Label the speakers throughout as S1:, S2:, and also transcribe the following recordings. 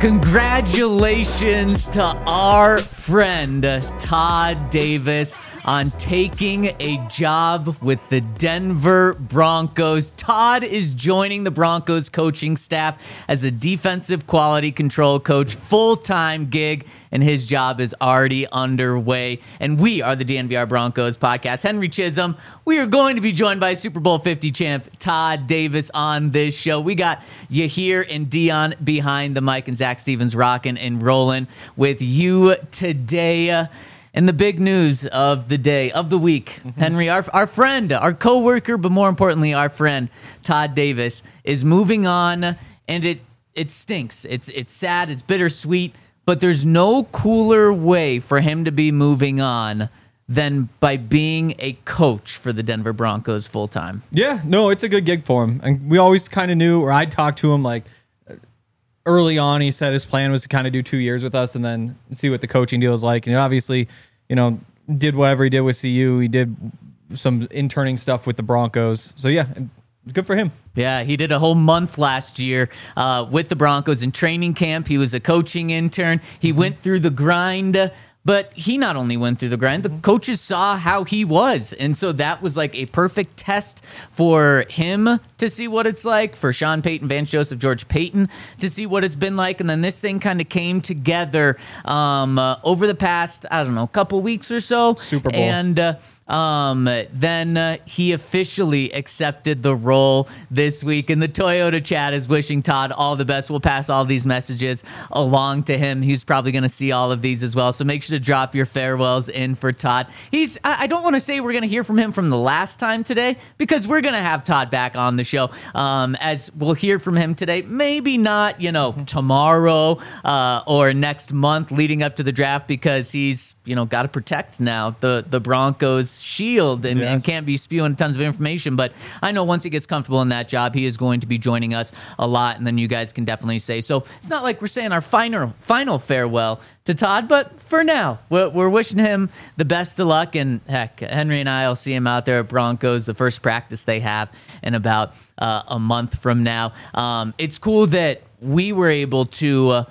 S1: Congratulations to our friend Todd Davis on taking a job with the Denver Broncos. Todd is joining the Broncos coaching staff as a defensive quality control coach, full-time gig, and his job is already underway. And we are the DNVR Broncos podcast. Henry Chisholm, we are going to be joined by Super Bowl 50 champ Todd Davis on this show. We got Yahir and Dion behind the mic, and Zach Stevens rocking and rolling with you today. And the big news of the day, of the week, Henry, our friend, our coworker, but more importantly, our friend, Todd Davis, is moving on, and it stinks. It's sad, it's bittersweet, but there's no cooler way for him to be moving on than by being a coach for the Denver Broncos full time.
S2: Yeah, no, it's a good gig for him. And we always kind of knew, or I talked to him like early on. He said his plan was to kind of do 2 years with us and then see what the coaching deal is like. And obviously, did whatever he did with CU. He did some interning stuff with the Broncos. So yeah, good for him.
S1: Yeah, he did a whole month last year with the Broncos in training camp. He was a coaching intern. He went through the grind. But he not only went through the grind, the coaches saw how he was. And so that was like a perfect test for him to see what it's like, for Sean Payton, Vance Joseph, George Payton to see what it's been like. And then this thing kind of came together over the past, couple weeks or so.
S2: Super Bowl.
S1: And then he officially accepted the role this week, and the Toyota chat is wishing Todd all the best. We'll pass all these messages along to him. He's probably going to see all of these as well, so make sure to drop your farewells in for Todd. I don't want to say we're going to hear from him from the last time today, because we're going to have Todd back on the show, as we'll hear from him today. Maybe not, tomorrow or next month leading up to the draft, because he's, got to protect now the Broncos shield and can't be spewing tons of information. But I know once he gets comfortable in that job, he is going to be joining us a lot, and then you guys can definitely say. So it's not like we're saying our final farewell to Todd, but for now, we're wishing him the best of luck. And heck, Henry and I will see him out there at Broncos, the first practice they have in about a month from now. It's cool that we were able to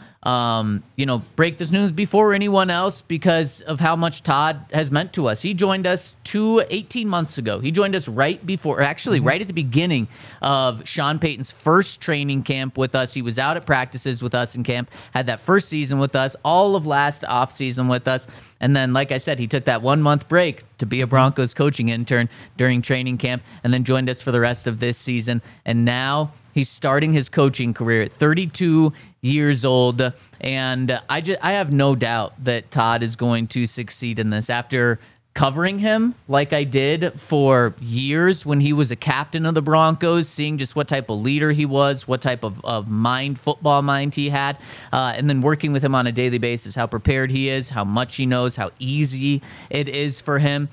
S1: break this news before anyone else because of how much Todd has meant to us. He joined us 18 months ago. He joined us right before, actually right at the beginning of Sean Payton's first training camp with us. He was out at practices with us in camp, had that first season with us, all of last offseason with us. And then, like I said, he took that 1 month break to be a Broncos coaching intern during training camp, and then joined us for the rest of this season. And now he's starting his coaching career at 32 years old, and I have no doubt that Todd is going to succeed in this. After covering him like I did for years when he was a captain of the Broncos, seeing just what type of leader he was, what type of football mind he had, and then working with him on a daily basis, how prepared he is, how much he knows, how easy it is for him,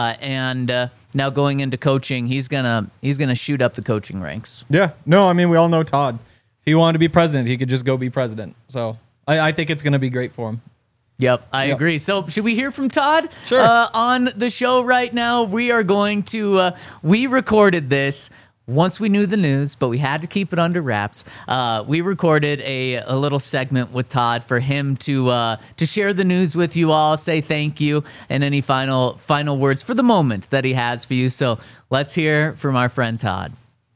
S1: and now going into coaching, he's gonna shoot up the coaching ranks.
S2: Yeah, no, I mean, we all know Todd. If he wanted to be president, he could just go be president. So I think it's going to be great for him.
S1: Yep, I agree. So should we hear from Todd?
S2: Sure.
S1: On the show right now? We are going to, we recorded this once we knew the news, but we had to keep it under wraps. We recorded a little segment with Todd for him to share the news with you all, say thank you, and any final words for the moment that he has for you. So let's hear from our friend Todd.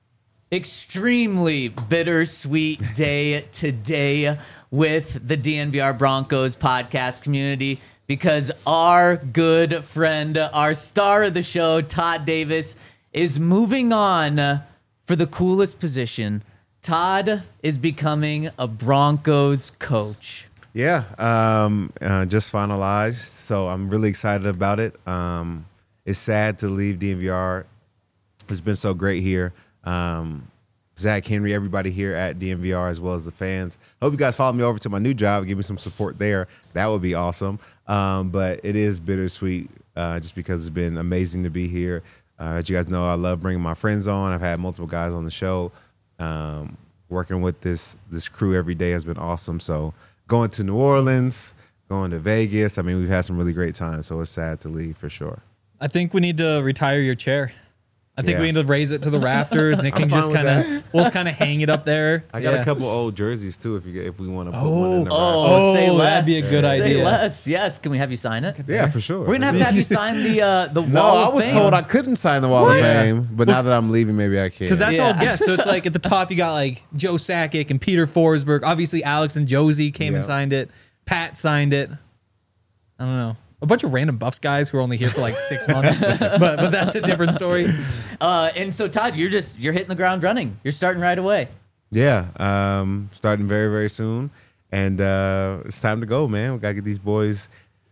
S1: Extremely bittersweet day today with the DNVR Broncos podcast community, because our good friend, our star of the show, Todd Davis, is moving on for the coolest position. Todd is becoming a Broncos coach.
S3: Yeah, just finalized, so I'm really excited about it. It's sad to leave DNVR. It's been so great here. Zach, Henry, everybody here at DNVR, as well as the fans. Hope you guys follow me over to my new job and give me some support there. That would be awesome. But it is bittersweet just because it's been amazing to be here. As you guys know, I love bringing my friends on. I've had multiple guys on the show. Working with this crew every day has been awesome. So going to New Orleans, going to Vegas, we've had some really great times. So it's sad to leave for sure.
S2: I think we need to retire your chair. I think
S3: Yeah.
S2: we need to raise it to the rafters, and it can
S3: fine
S2: just
S3: with
S2: kind of we'll just kind of hang it up there.
S3: I got
S2: Yeah.
S3: a couple old jerseys too. If we want to put one in the rack.
S2: Oh,
S1: say less.
S2: that'd be a good
S1: Say
S2: idea.
S1: less. Yes. Can we have you sign it?
S3: Yeah, for sure.
S1: We're gonna have you sign the
S3: No,
S1: wall
S3: I
S1: of
S3: was
S1: fame.
S3: told I couldn't sign the Wall of Fame, but now that I'm leaving, maybe I can.
S2: Because that's
S1: Yeah.
S2: all guests. So it's like at the top you got like Joe Sakic and Peter Forsberg. Obviously Alex and Josie came and
S3: Yep.
S2: signed it. Pat signed it. I don't know. A bunch of random Buffs guys who are only here for like 6 months. but that's a different story.
S1: And so Todd, you're hitting the ground running. You're starting right away.
S3: Yeah, starting very, very soon. And it's time to go, man. We got to get these boys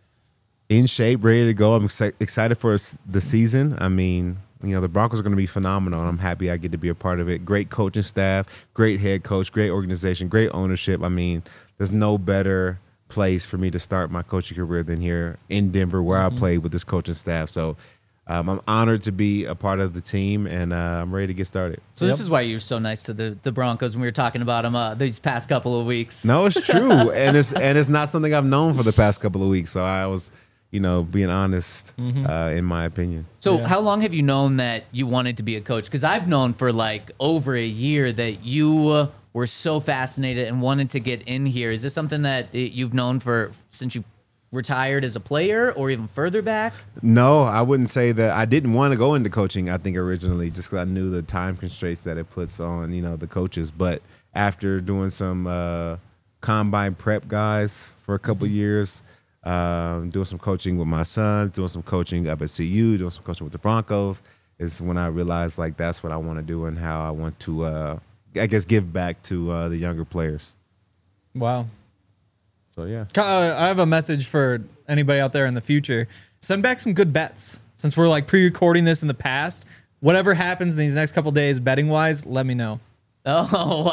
S3: in shape, ready to go. I'm excited for the season. I mean, the Broncos are going to be phenomenal, and I'm happy I get to be a part of it. Great coaching staff, great head coach, great organization, great ownership. I mean, there's no better place for me to start my coaching career than here in Denver, where I played with this coaching staff. So I'm honored to be a part of the team, and I'm ready to get started.
S1: So this is why you're so nice to the Broncos when we were talking about them these past couple of weeks.
S3: No, it's true, and it's not something I've known for the past couple of weeks. So I was, being honest in my opinion.
S1: So how long have you known that you wanted to be a coach? Because I've known for like over a year that you were so fascinated and wanted to get in here. Is this something that you've known since you retired as a player or even further back?
S3: No, I wouldn't say that. I didn't want to go into coaching, I think, originally, just because I knew the time constraints that it puts on, the coaches. But after doing some combine prep guys for a couple years, doing some coaching with my sons, doing some coaching up at CU, doing some coaching with the Broncos, is when I realized, like, that's what I want to do and how I want to, give back to the younger players.
S2: Wow.
S3: So, yeah.
S2: I have a message for anybody out there in the future. Send back some good bets. Since we're like pre-recording this in the past, whatever happens in these next couple days betting wise, let me know.
S1: Oh,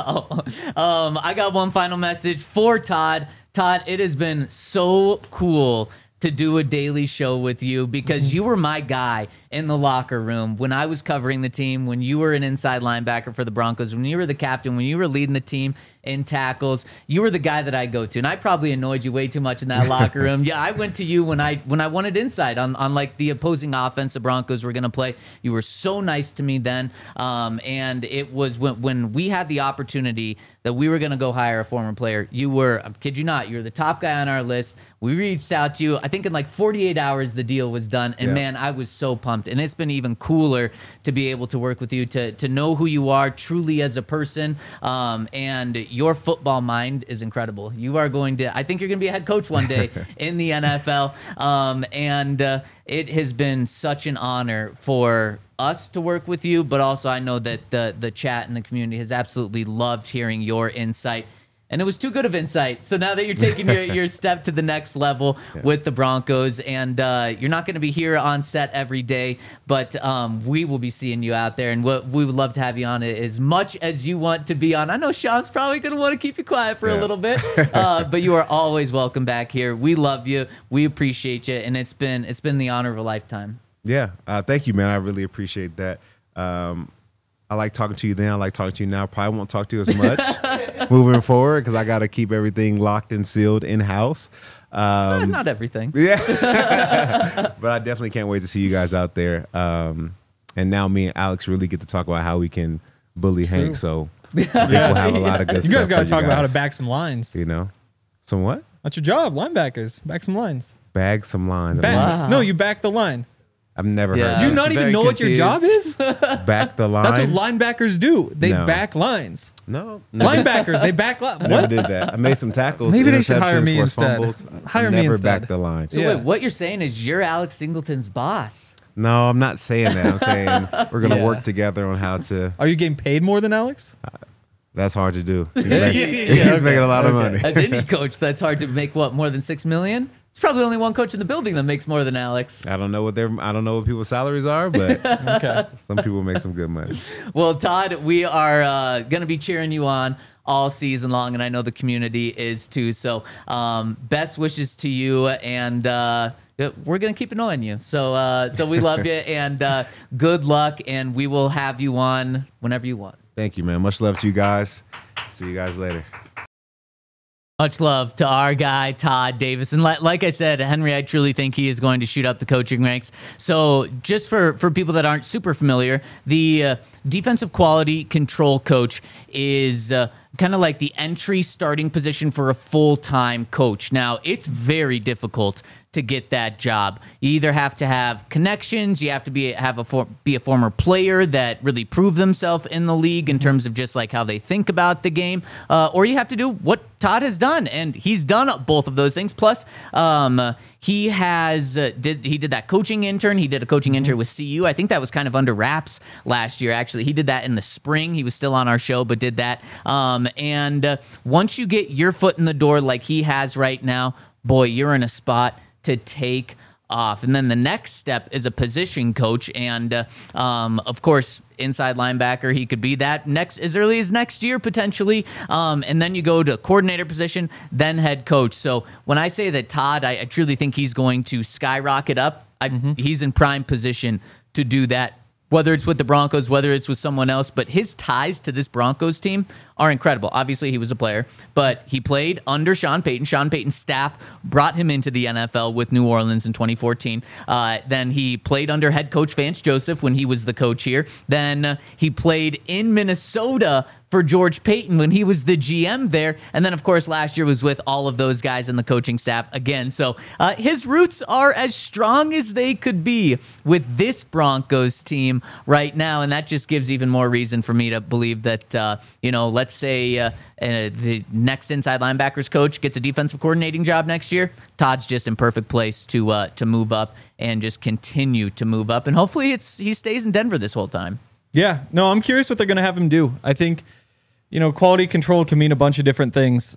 S1: wow. I got one final message for Todd. Todd, it has been so cool to do a daily show with you because you were my guy in the locker room when I was covering the team, when you were an inside linebacker for the Broncos, when you were the captain, when you were leading the team in tackles. You were the guy that I go to, and I probably annoyed you way too much in that locker room. Yeah, I went to you when I wanted insight on like the opposing offense the Broncos were going to play. You were so nice to me then, and it was when we had the opportunity that we were going to go hire a former player. You were, I kid you not, you were the top guy on our list. We reached out to you. I think in like 48 hours the deal was done, and man, I was so pumped. And it's been even cooler to be able to work with you, to know who you are truly as a person, and your football mind is incredible. You are going to, I think you're going to be a head coach one day in the NFL, and it has been such an honor for us to work with you, but also I know that the chat and the community has absolutely loved hearing your insight. And it was too good of insight. So now that you're taking your step to the next level with the Broncos, and you're not going to be here on set every day, but we will be seeing you out there, and we would love to have you on it as much as you want to be on. I know Sean's probably going to want to keep you quiet for a little bit, but you are always welcome back here. We love you. We appreciate you, and it's been the honor of a lifetime.
S3: Yeah, thank you, man. I really appreciate that. I like talking to you then. I like talking to you now. Probably won't talk to you as much moving forward because I got to keep everything locked and sealed in-house.
S1: Not everything.
S3: Yeah. But I definitely can't wait to see you guys out there. And now me and Alex really get to talk about how we can bully Hank. So we'll have a lot of good
S2: You
S3: stuff
S2: guys got to
S3: for
S2: talk about how
S3: guys.
S2: to back some lines.
S3: Some what?
S2: That's your job, linebackers. Back some lines.
S3: Bag some lines.
S2: Back. No, you back the line.
S3: I've never
S1: Yeah.
S3: heard
S2: Do you
S3: that.
S2: not even
S1: very
S2: know what your job is?
S3: Back the line.
S2: That's what linebackers do. They
S3: No.
S2: back lines.
S3: No.
S2: Linebackers, they back lines.
S3: Never
S2: What?
S3: did that. I made some tackles.
S2: Maybe they should hire
S3: interceptions,
S2: me
S3: forced
S2: instead.
S3: fumbles.
S2: Hire me
S3: Never
S2: instead.
S3: back the line.
S1: So
S2: Yeah.
S1: wait, what you're saying is you're Alex Singleton's boss.
S3: No, I'm not saying that. I'm saying we're going to
S2: Yeah.
S3: work together on how to.
S2: Are you getting paid more than Alex?
S3: That's hard to do. He's,
S2: Yeah,
S3: he's making a lot of money.
S1: As any coach, that's hard to make more than $6 million? It's probably only one coach in the building that makes more than Alex.
S3: I don't know what people's salaries are, but
S2: Okay.
S3: some people make some good money.
S1: Well, Todd, we are going to be cheering you on all season long, and I know the community is too. So best wishes to you, and we're going to keep an eye on you. So we love you, and good luck, and we will have you on whenever you want.
S3: Thank you, man. Much love to you guys. See you guys later.
S1: Much love to our guy, Todd Davis. And like I said, Henry, I truly think he is going to shoot up the coaching ranks. So just for people that aren't super familiar, the defensive quality control coach is kind of like the entry starting position for a full-time coach. Now, it's very difficult to get that job. You either have to have connections, you have to be a former player that really proved themselves in the league in terms of just like how they think about the game, or you have to do what Todd has done, and he's done both of those things. Plus, he did that coaching intern. He did a coaching intern with CU. I think that was kind of under wraps last year. Actually, he did that in the spring. He was still on our show, but did that. And once you get your foot in the door like he has right now, boy, you're in a spot to take off. And then the next step is a position coach, and of course, inside linebacker, he could be that as early as next year potentially. And then you go to coordinator position, then head coach. So when I say that Todd, I truly think he's going to skyrocket up. He's in prime position to do that, whether it's with the Broncos, whether it's with someone else. But his ties to this Broncos team are incredible. Obviously, he was a player, but he played under Sean Payton. Sean Payton's staff brought him into the NFL with New Orleans in 2014. Then he played under head coach Vance Joseph when he was the coach here. Then he played in Minnesota for George Payton when he was the GM there. And then, of course, last year was with all of those guys in the coaching staff again. So his roots are as strong as they could be with this Broncos team right now. And that just gives even more reason for me to believe that, let's say the next inside linebackers coach gets a defensive coordinating job next year. Todd's just in perfect place to move up and just continue to move up. And hopefully he stays in Denver this whole time.
S2: Yeah, no, I'm curious what they're going to have him do. I think, quality control can mean a bunch of different things.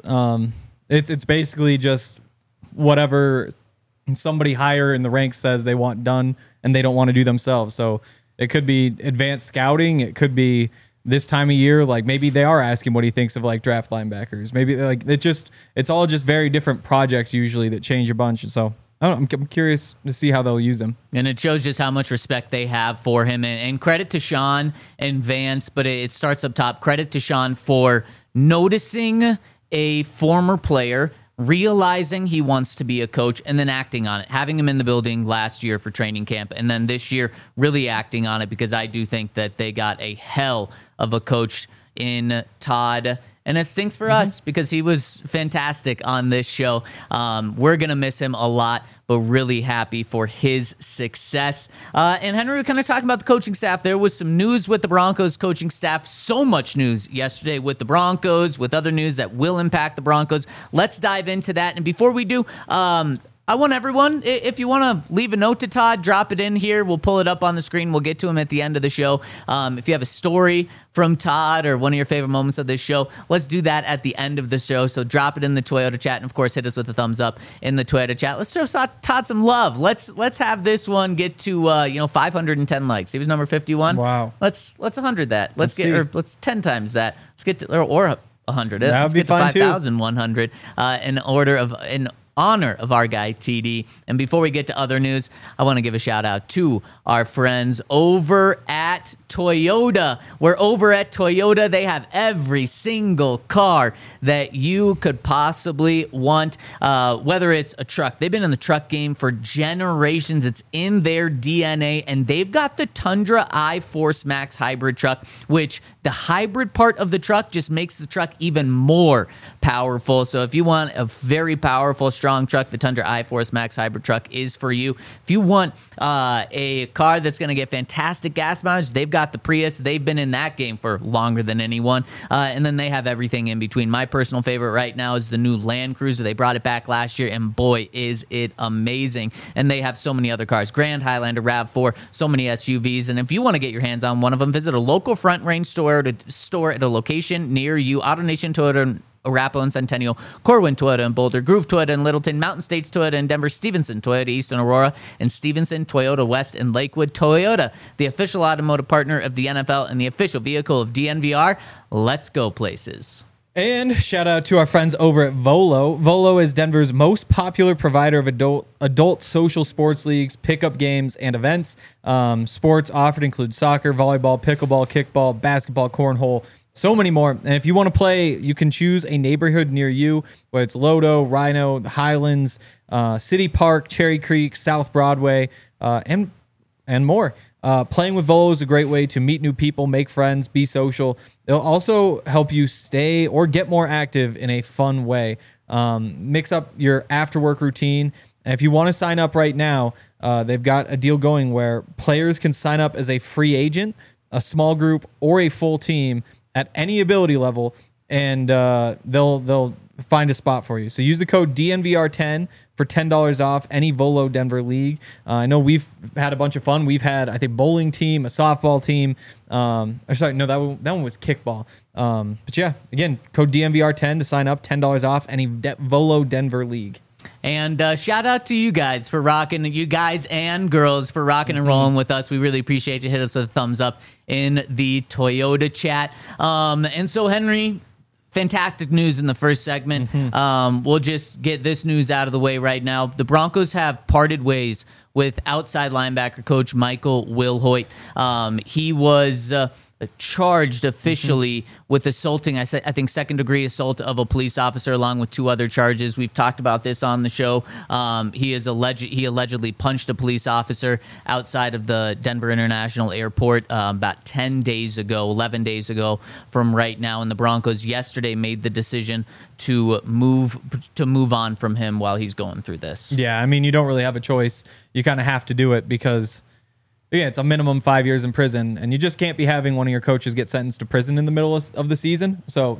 S2: It's basically just whatever somebody higher in the ranks says they want done and they don't want to do themselves. So it could be advanced scouting. It could be this time of year, like maybe they are asking what he thinks of like draft linebackers. Maybe like it's all just very different projects usually that change a bunch. So I'm curious to see how they'll use him.
S1: And it shows just how much respect they have for him. And credit to Sean and Vance, but it starts up top. Credit to Sean for noticing a former player, realizing he wants to be a coach, and then acting on it. Having him in the building last year for training camp, and then this year really acting on it, because I do think that they got a hell of a coach in Todd. And it stinks for us because he was fantastic on this show. We're going to miss him a lot, but really happy for his success. And Henry, we're kind of talking about the coaching staff. There was some news with the Broncos coaching staff. So much news yesterday with the Broncos, with other news that will impact the Broncos. Let's dive into that. And before we do, I want everyone, if you want to leave a note to Todd, drop it in here. We'll pull it up on the screen. We'll get to him at the end of the show. If you have a story from Todd or one of your favorite moments of this show, let's do that at the end of the show. So drop it in the Toyota chat, and of course, hit us with a thumbs up in the Toyota chat. Let's show Todd some love. Let's have this one get to 510 likes. He was number 51.
S2: Wow.
S1: Let's 100 that. Let's 10 times that. Let's get to or 100.
S2: That
S1: Let's
S2: would be
S1: get to
S2: fun too.
S1: 5,100 in honor of our guy TD. And before we get to other news, I want to give a shout out to our friends over at Toyota. We're over at Toyota. They have every single car that you could possibly want, whether it's a truck. They've been in the truck game for generations. It's in their DNA, and they've got the Tundra iForce Max hybrid truck, which the hybrid part of the truck just makes the truck even more powerful. So if you want a very powerful, strong truck, the Tundra iForce Max hybrid truck is for you. If you want a car that's going to get fantastic gas mileage, they've got the Prius. They've been in that game for longer than anyone. And then they have everything in between. My personal favorite right now is the new Land Cruiser. They brought it back last year, and boy, is it amazing. And they have so many other cars. Grand Highlander, RAV4, so many SUVs. And if you want to get your hands on one of them, visit a local Front Range store at a location near you. AutoNation Toyota Arapahoe and Centennial, Corwin Toyota in Boulder, Groove Toyota in Littleton, Mountain States Toyota in Denver, Stevenson Toyota East in Aurora, and Stevenson Toyota West in Lakewood. Toyota, the official automotive partner of the NFL and the official vehicle of DNVR. Let's go places.
S2: And shout out to our friends over at Volo. Volo is Denver's most popular provider of adult social sports leagues, pickup games, and events. Sports offered include soccer, volleyball, pickleball, kickball, basketball, cornhole, so many more. And if you want to play, you can choose a neighborhood near you, whether it's Lodo, Rhino, the Highlands, City Park, Cherry Creek, South Broadway, and more. Playing with Volo is a great way to meet new people, make friends, be social. It'll also help you stay or get more active in a fun way. Mix up your after-work routine. And if you want to sign up right now, they've got a deal going where players can sign up as a free agent, a small group, or a full team at any ability level, and they'll find a spot for you. So use the code DNVR10 for $10 off any Volo Denver league. I know we've had a bunch of fun. We've had, I think, bowling team, a softball team. That one was kickball. But yeah, again, code DNVR10 to sign up, $10 off any Volo Denver league.
S1: And shout out to you guys for rocking, you guys and girls for rocking and rolling with us. We really appreciate you. Hit us with a thumbs up in the Toyota chat. And so, Henry, fantastic news in the first segment. We'll just get this news out of the way right now. The Broncos have parted ways with outside linebacker coach Michael Wilhoit. He was charged officially with assaulting, I think, second-degree assault of a police officer, along with 2 other charges. We've talked about this on the show. He allegedly punched a police officer outside of the Denver International Airport about 11 days ago from right now. And the Broncos yesterday made the decision to move on from him while he's going through this.
S2: Yeah, I mean, you don't really have a choice. You kind of have to do it because, yeah, it's a minimum 5 years in prison, and you just can't be having one of your coaches get sentenced to prison in the middle of the season. So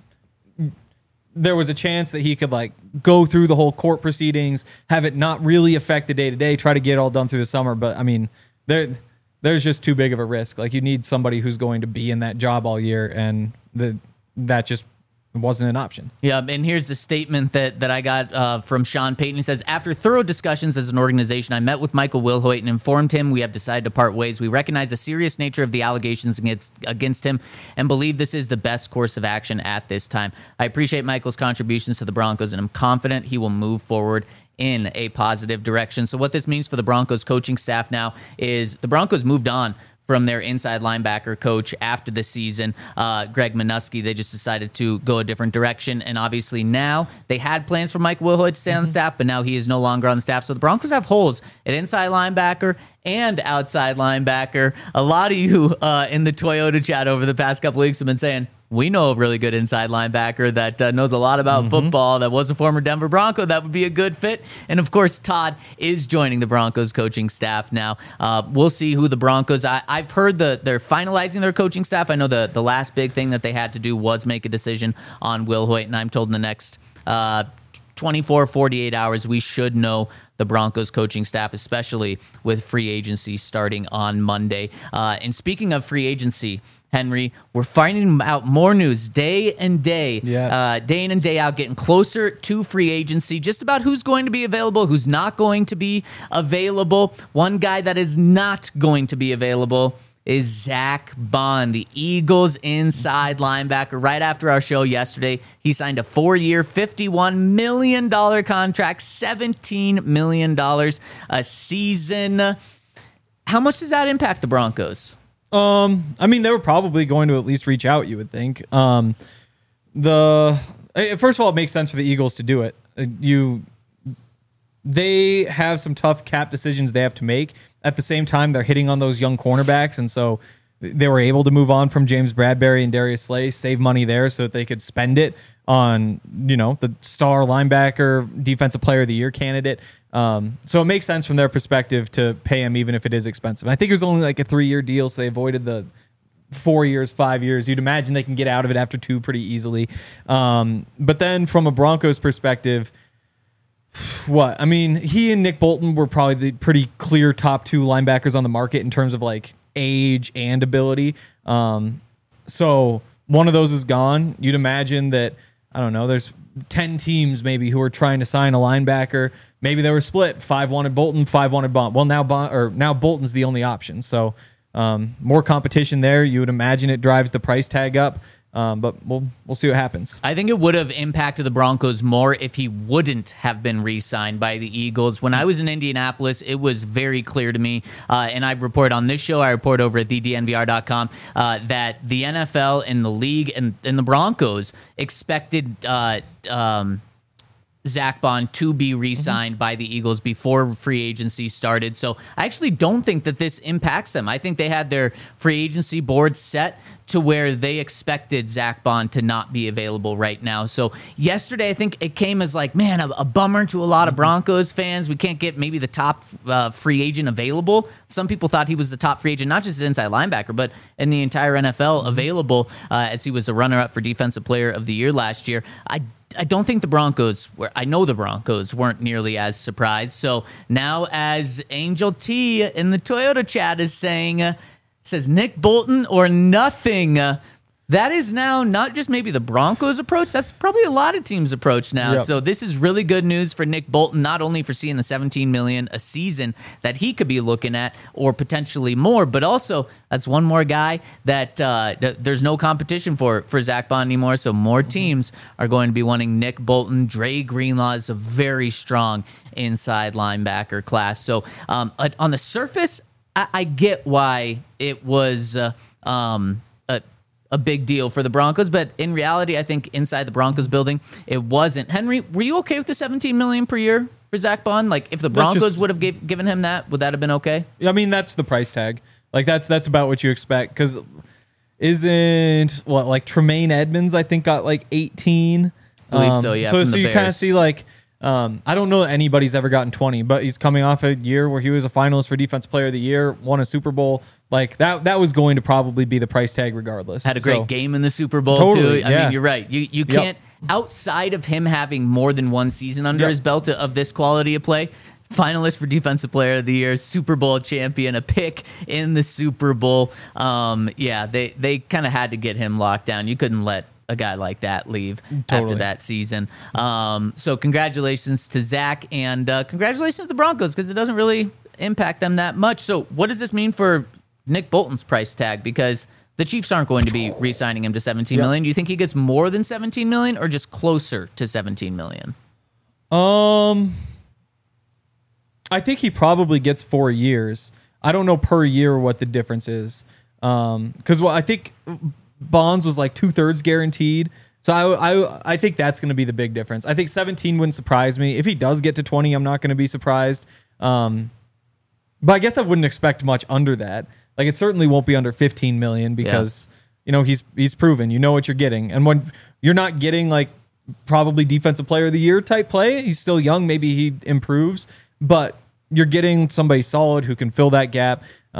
S2: there was a chance that he could go through the whole court proceedings, have it not really affect the day-to-day, try to get it all done through the summer. But I mean, there's just too big of a risk. You need somebody who's going to be in that job all year, and that just wasn't an option.
S1: Yeah, and here's the statement that I got from Sean Payton. He says, after thorough discussions as an organization, I met with Michael Wilhoit and informed him we have decided to part ways. We recognize the serious nature of the allegations against him and believe this is the best course of action at this time. I appreciate Michael's contributions to the Broncos, and I'm confident he will move forward in a positive direction. So what this means for the Broncos coaching staff now is the Broncos moved on from their inside linebacker coach after the season, Greg Minuski. They just decided to go a different direction. And obviously now they had plans for Mike Wilhoit to stay on the staff, but now he is no longer on the staff. So the Broncos have holes at inside linebacker and outside linebacker. A lot of you in the Toyota chat over the past couple weeks have been saying, we know a really good inside linebacker that knows a lot about football, that was a former Denver Bronco. That would be a good fit. And, of course, Todd is joining the Broncos coaching staff now. We'll see who the Broncos... I've heard they're finalizing their coaching staff. I know the last big thing that they had to do was make a decision on Wilhoit, and I'm told in the next 24, 48 hours, we should know the Broncos coaching staff, especially with free agency starting on Monday. And speaking of free agency, Henry, we're finding out more news day and day.
S2: Yes.
S1: Day in and day out, getting closer to free agency, just about who's going to be available, who's not going to be available. One guy that is not going to be available is Zach Bond, the Eagles inside linebacker. Right after our show yesterday, he signed a 4-year, $51 million contract, $17 million a season. How much does that impact the Broncos?
S2: I mean, they were probably going to at least reach out, you would think. First of all, it makes sense for the Eagles to do it. They have some tough cap decisions they have to make. At the same time, they're hitting on those young cornerbacks, and so they were able to move on from James Bradbury and Darius Slay, save money there so that they could spend it on, the star linebacker, defensive player of the year candidate. So it makes sense from their perspective to pay him even if it is expensive. And I think it was only a 3-year deal, so they avoided the 4 years, 5 years. You'd imagine they can get out of it after 2 pretty easily. But then from a Broncos perspective, what? I mean, he and Nick Bolton were probably the pretty clear top 2 linebackers on the market in terms of age and ability. So one of those is gone. You'd imagine that, I don't know, there's 10 teams maybe who are trying to sign a linebacker. Maybe they were split. 5 wanted Bolton, 5 wanted Bond. Well, now Bolton's the only option. So more competition there. You would imagine it drives the price tag up. But we'll see what happens.
S1: I think it would have impacted the Broncos more if he wouldn't have been re-signed by the Eagles. When I was in Indianapolis, it was very clear to me, and I report on this show, I report over at thednvr.com, that the NFL and the league and the Broncos expected Zach Bond to be re-signed by the Eagles before free agency started. So I actually don't think that this impacts them. I think they had their free agency board set to where they expected Zach Bond to not be available right now. So yesterday, I think it came as like, man, a bummer to a lot of Broncos fans. We can't get maybe the top free agent available. Some people thought he was the top free agent, not just inside linebacker, but in the entire NFL available, as he was the runner-up for Defensive Player of the Year last year. I don't think the Broncos were, I know the Broncos weren't nearly as surprised. So now, as Angel T in the Toyota chat is saying, says Nick Bolton or nothing. That is now not just maybe the Broncos' approach. That's probably a lot of teams' approach now.
S2: Yep.
S1: So this is really good news for Nick Bolton, not only for seeing the $17 million a season that he could be looking at, or potentially more, but also that's one more guy that there's no competition for Zach Bond anymore. So more teams are going to be wanting Nick Bolton. Dre Greenlaw is a very strong inside linebacker class. So on the surface, I get why it was a big deal for the Broncos, but in reality, I think inside the Broncos building, it wasn't. Henry, were you okay with the $17 million per year for Zach Bond? Like, if the Broncos would have given him that, would that have been okay?
S2: I mean, that's the price tag. Like, that's about what you expect. Because like Tremaine Edmonds, I think, got like 18.
S1: I believe so, yeah.
S2: So you kind of see like, I don't know that anybody's ever gotten 20, but he's coming off a year where he was a finalist for Defensive Player of the Year, won a Super Bowl. Like that was going to probably be the price tag regardless.
S1: Had a great game in the Super Bowl
S2: totally,
S1: too. I mean, you're right. You can't, outside of him having more than one season under his belt of this quality of play, finalist for Defensive Player of the Year, Super Bowl champion, a pick in the Super Bowl. They kind of had to get him locked down. You couldn't let a guy like that leave after that season. So congratulations to Zach, and congratulations to the Broncos, because it doesn't really impact them that much. So what does this mean for Nick Bolton's price tag? Because the Chiefs aren't going to be re-signing him to $17 million. Do you think he gets more than $17 million or just closer to $17 million?
S2: I think he probably gets 4 years. I don't know per year what the difference is. Because I think Bonds was like 2/3 guaranteed. So I think that's going to be the big difference. I think 17 wouldn't surprise me. If he does get to 20, I'm not going to be surprised. But I guess I wouldn't expect much under that. Like, it certainly won't be under 15 million because he's proven, you know what you're getting. And when you're not getting like probably Defensive Player of the Year type play, he's still young, maybe he improves, but you're getting somebody solid who can fill that gap.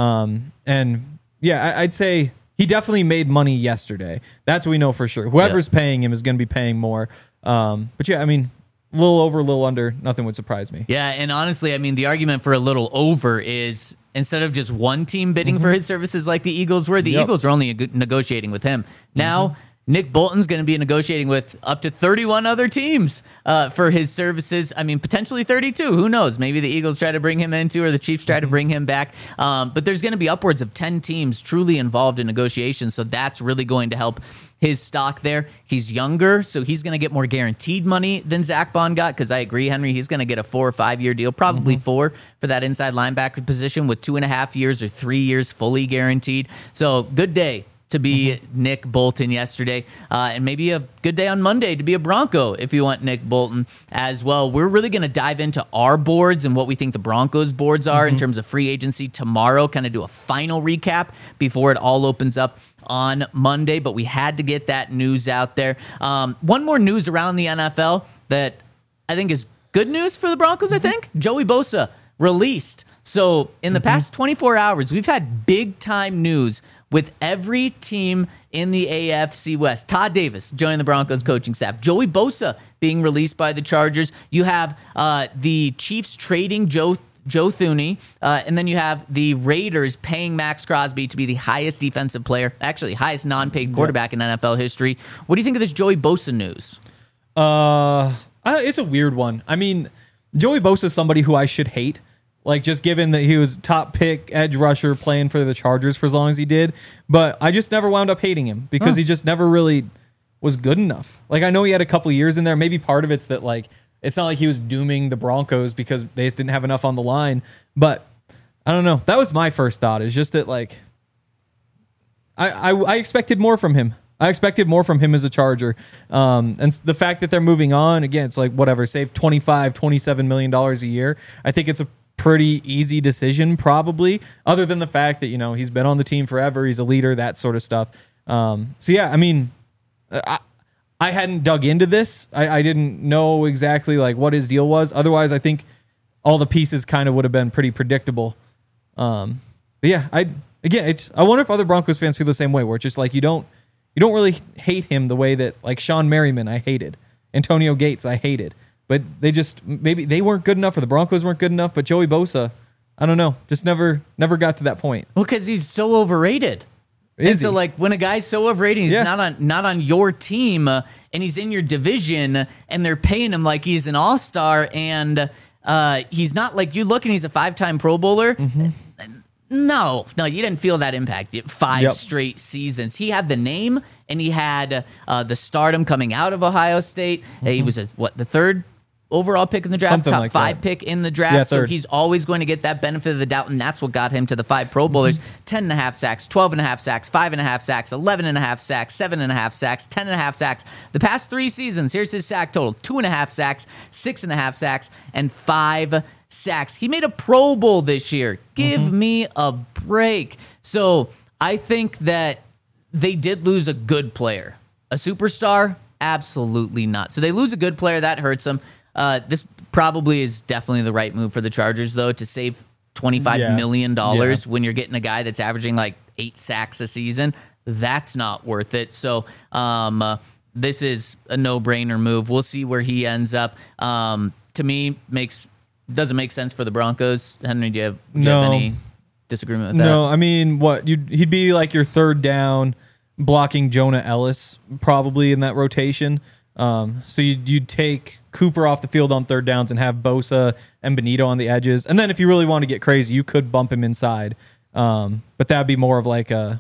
S2: I'd say he definitely made money yesterday. That's what we know for sure. Whoever's paying him is going to be paying more. But yeah, I mean, a little over, a little under, nothing would surprise me.
S1: Yeah, and honestly, I mean, the argument for a little over is instead of just one team bidding for his services like the Eagles were, the Eagles are only negotiating with him. Now, Nick Bolton's going to be negotiating with up to 31 other teams for his services. I mean, potentially 32. Who knows? Maybe the Eagles try to bring him into, or the Chiefs try to bring him back. But there's going to be upwards of 10 teams truly involved in negotiations. So that's really going to help his stock there. He's younger, so he's going to get more guaranteed money than Zach Bond got, because I agree, Henry, he's going to get a 4 or 5 year deal, probably 4 for that inside linebacker position, with 2.5 years or 3 years fully guaranteed. So good day to be Nick Bolton yesterday, and maybe a good day on Monday to be a Bronco if you want Nick Bolton as well. We're really going to dive into our boards and what we think the Broncos boards are in terms of free agency tomorrow, kind of do a final recap before it all opens up on Monday, but we had to get that news out there. One more news around the NFL that I think is good news for the Broncos, I think. Joey Bosa released. So in the past 24 hours, we've had big time news with every team in the AFC West. Todd Davis joining the Broncos coaching staff. Joey Bosa being released by the Chargers. You have the Chiefs trading Joe Thuney, and then you have the Raiders paying Max Crosby to be the highest defensive player, actually highest non-paid quarterback in NFL history. What do you think of this Joey Bosa news?
S2: It's a weird one. I mean, Joey Bosa is somebody who I should hate. like just given that he was top pick edge rusher playing for the Chargers for as long as he did. But I just never wound up hating him because he just never really was good enough. Like, I know he had a couple years in there. Maybe part of it's that, like, it's not like he was dooming the Broncos because they just didn't have enough on the line. But I don't know. That was my first thought, is just that, like, I expected more from him. I expected more from him as a Charger. And the fact that they're moving on, again, it's like, whatever, save $27 million a year. I think it's a pretty easy decision, probably, other than the fact that, you know, he's been on the team forever. He's a leader, that sort of stuff. So, yeah, I mean, I hadn't dug into this. I didn't know exactly, like, what his deal was. Otherwise, I think all the pieces kind of would have been pretty predictable. But, yeah, I wonder if other Broncos fans feel the same way, where it's just like, you don't really hate him the way that, like, Sean Merriman I hated, Antonio Gates I hated, but they just, maybe they weren't good enough or the Broncos weren't good enough, but Joey Bosa, I don't know, just never got to that point.
S1: Well, because he's so overrated. So, like, when a guy's so overrated, he's not on your team, and he's in your division, and they're paying him like he's an all-star, and he's not, like, you look and he's a 5-time Pro Bowler. Mm-hmm. No, you didn't feel that impact. 5 straight seasons. He had the name, and he had the stardom coming out of Ohio State. Mm-hmm. He was the third overall pick in the draft,
S2: something
S1: top
S2: like
S1: 5
S2: that.
S1: Pick in the draft. So he's always going to get that benefit of the doubt, and that's what got him to the 5 Pro Bowlers. 10.5 sacks, 12.5 sacks, 5.5 sacks, 11.5 sacks, 7.5 sacks, 10.5 sacks. The past 3 seasons, here's his sack total: 2.5 sacks, 6.5 sacks, and 5 sacks. He made a Pro Bowl this year. Give me a break. So I think that they did lose a good player. A superstar? Absolutely not. So they lose a good player. That hurts them. This probably is definitely the right move for the Chargers, though, to save $25 million when you're getting a guy that's averaging like 8 sacks a season. That's not worth it. So this is a no-brainer move. We'll see where he ends up. To me, doesn't make sense for the Broncos. Henry, do you have any disagreement with that?
S2: No, I mean, he'd be like your third down blocking Jonah Ellis probably in that rotation. So you'd take Cooper off the field on third downs and have Bosa and Benito on the edges. And then if you really want to get crazy, you could bump him inside. But that'd be more of like a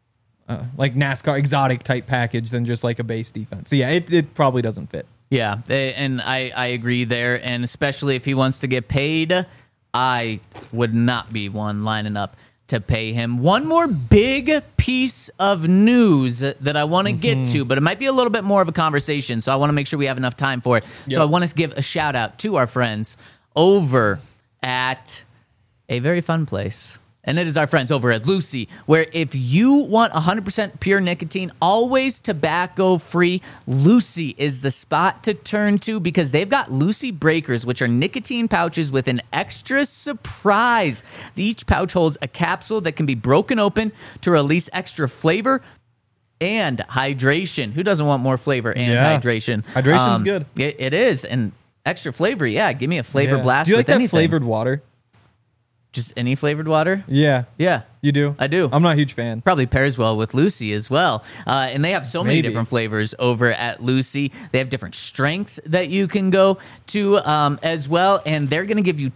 S2: like NASCAR exotic type package than just like a base defense. So yeah, it probably doesn't fit.
S1: Yeah, and I agree there. And especially if he wants to get paid, I would not be one lining up to pay him. One more big piece of news that I want to get to, but it might be a little bit more of a conversation, so I want to make sure we have enough time for it. Yep. So I want to give a shout out to our friends over at a very fun place. And it is our friends over at Lucy, where if you want 100% pure nicotine, always tobacco free, Lucy is the spot to turn to, because they've got Lucy Breakers, which are nicotine pouches with an extra surprise. Each pouch holds a capsule that can be broken open to release extra flavor and hydration. Who doesn't want more flavor and hydration?
S2: Hydration's good.
S1: It is. And extra flavor, give me a flavor blast.
S2: Do you like
S1: with
S2: that flavored water?
S1: Just any flavored water?
S2: Yeah.
S1: Yeah.
S2: You do?
S1: I do.
S2: I'm not a huge fan.
S1: Probably pairs well with Lucy as well. And they have so many different flavors over at Lucy. They have different strengths that you can go to as well. And they're going to give you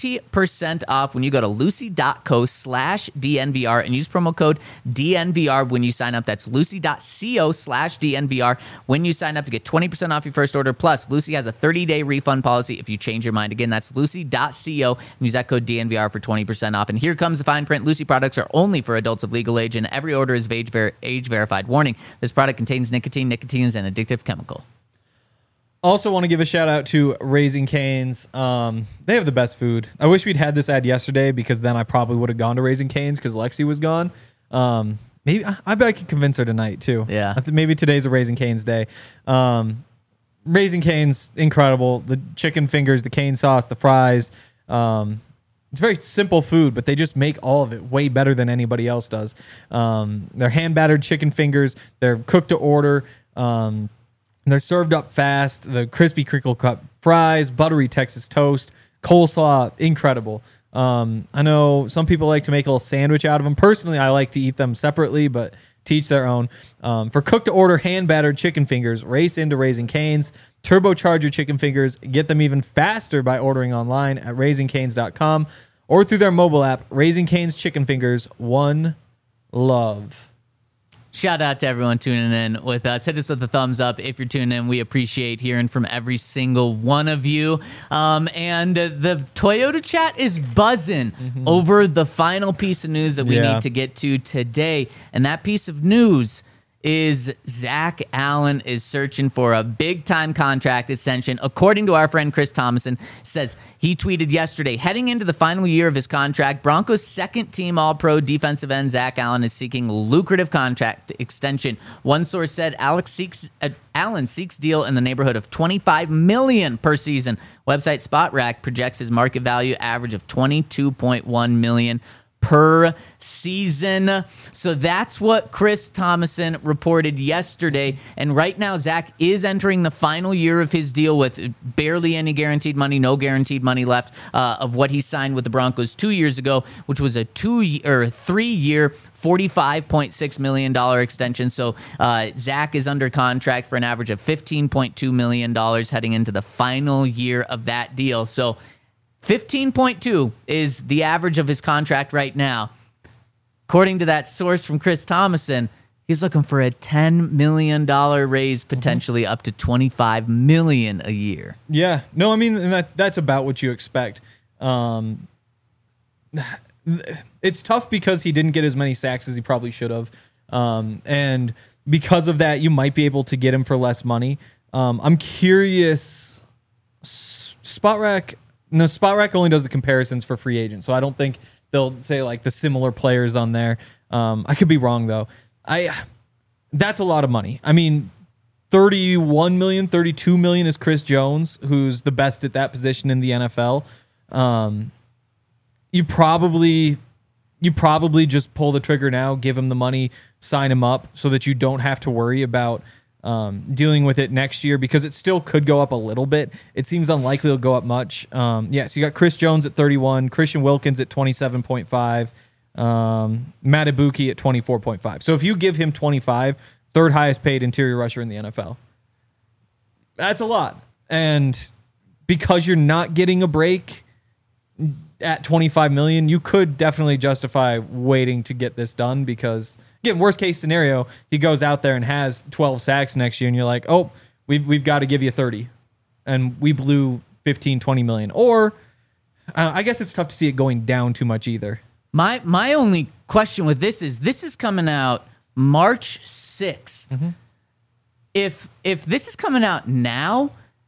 S1: 20% off when you go to lucy.co/DNVR and use promo code DNVR when you sign up. That's lucy.co/DNVR when you sign up to get 20% off your first order. Plus, Lucy has a 30-day refund policy if you change your mind. Again, that's lucy.co and use that code DNVR for 20% off. And here comes the fine print. Lucy products are only for adults of legal age, and every order is age verified. Warning: this product contains nicotine. Nicotine is an addictive chemical.
S2: Also want to give a shout out to Raising Cane's. They have the best food. I wish we'd had this ad yesterday, because then I probably would have gone to Raising Cane's because Lexi was gone. Maybe I bet I could convince her tonight too.
S1: Yeah.
S2: Maybe today's a Raising Cane's day. Raising Cane's incredible. The chicken fingers, the cane sauce, the fries. It's very simple food, but they just make all of it way better than anybody else does. They're hand-battered chicken fingers. They're cooked to order. They're served up fast. The crispy crinkle cut fries, buttery Texas toast, coleslaw, incredible. I know some people like to make a little sandwich out of them. Personally, I like to eat them separately, but to each their own. For cooked-to-order, hand-battered chicken fingers, race into Raising Cane's. Turbocharge your chicken fingers. Get them even faster by ordering online at raisingcanes.com. or through their mobile app. Raising Cane's Chicken Fingers, one love.
S1: Shout out to everyone tuning in with us. Hit us with a thumbs up if you're tuning in. We appreciate hearing from every single one of you. And the Toyota chat is buzzing over the final piece of news that we need to get to today. And that piece of news is Zach Allen is searching for a big-time contract extension. According to our friend Chris Thomason, says he tweeted yesterday, heading into the final year of his contract, Broncos' second-team All-Pro defensive end Zach Allen is seeking lucrative contract extension. One source said Allen seeks deal in the neighborhood of $25 million per season. Website SpotRack projects his market value average of $22.1 million per season. So that's what Chris Thomason reported yesterday. And right now, Zach is entering the final year of his deal with barely any guaranteed money, no guaranteed money left of what he signed with the Broncos 2 years ago, which was a 3-year, $45.6 million extension. So Zach is under contract for an average of $15.2 million heading into the final year of that deal. So 15.2 is the average of his contract right now. According to that source from Chris Thomason, he's looking for a $10 million raise, potentially up to $25 million a year.
S2: Yeah. No, I mean, and that's about what you expect. It's tough because he didn't get as many sacks as he probably should have. And because of that, you might be able to get him for less money. I'm curious. SpotRack only does the comparisons for free agents, so I don't think they'll say like the similar players on there. I could be wrong though. That's a lot of money. I mean, $31 million, $32 million is Chris Jones, who's the best at that position in the NFL. You probably just pull the trigger now, give him the money, sign him up, so that you don't have to worry about dealing with it next year, because it still could go up a little bit. It seems unlikely it'll go up much. So you got Chris Jones at 31, Christian Wilkins at 27.5, Matt Ibuki at 24.5. So if you give him 25, third highest paid interior rusher in the NFL. That's a lot. And because you're not getting a break at $25 million, you could definitely justify waiting to get this done, because again, worst case scenario, he goes out there and has 12 sacks next year, and you're like, oh, we've got to give you 30, and we blew 15, 20 million. Or I guess it's tough to see it going down too much either.
S1: My only question with this is coming out March 6th. Mm-hmm. If this is coming out now,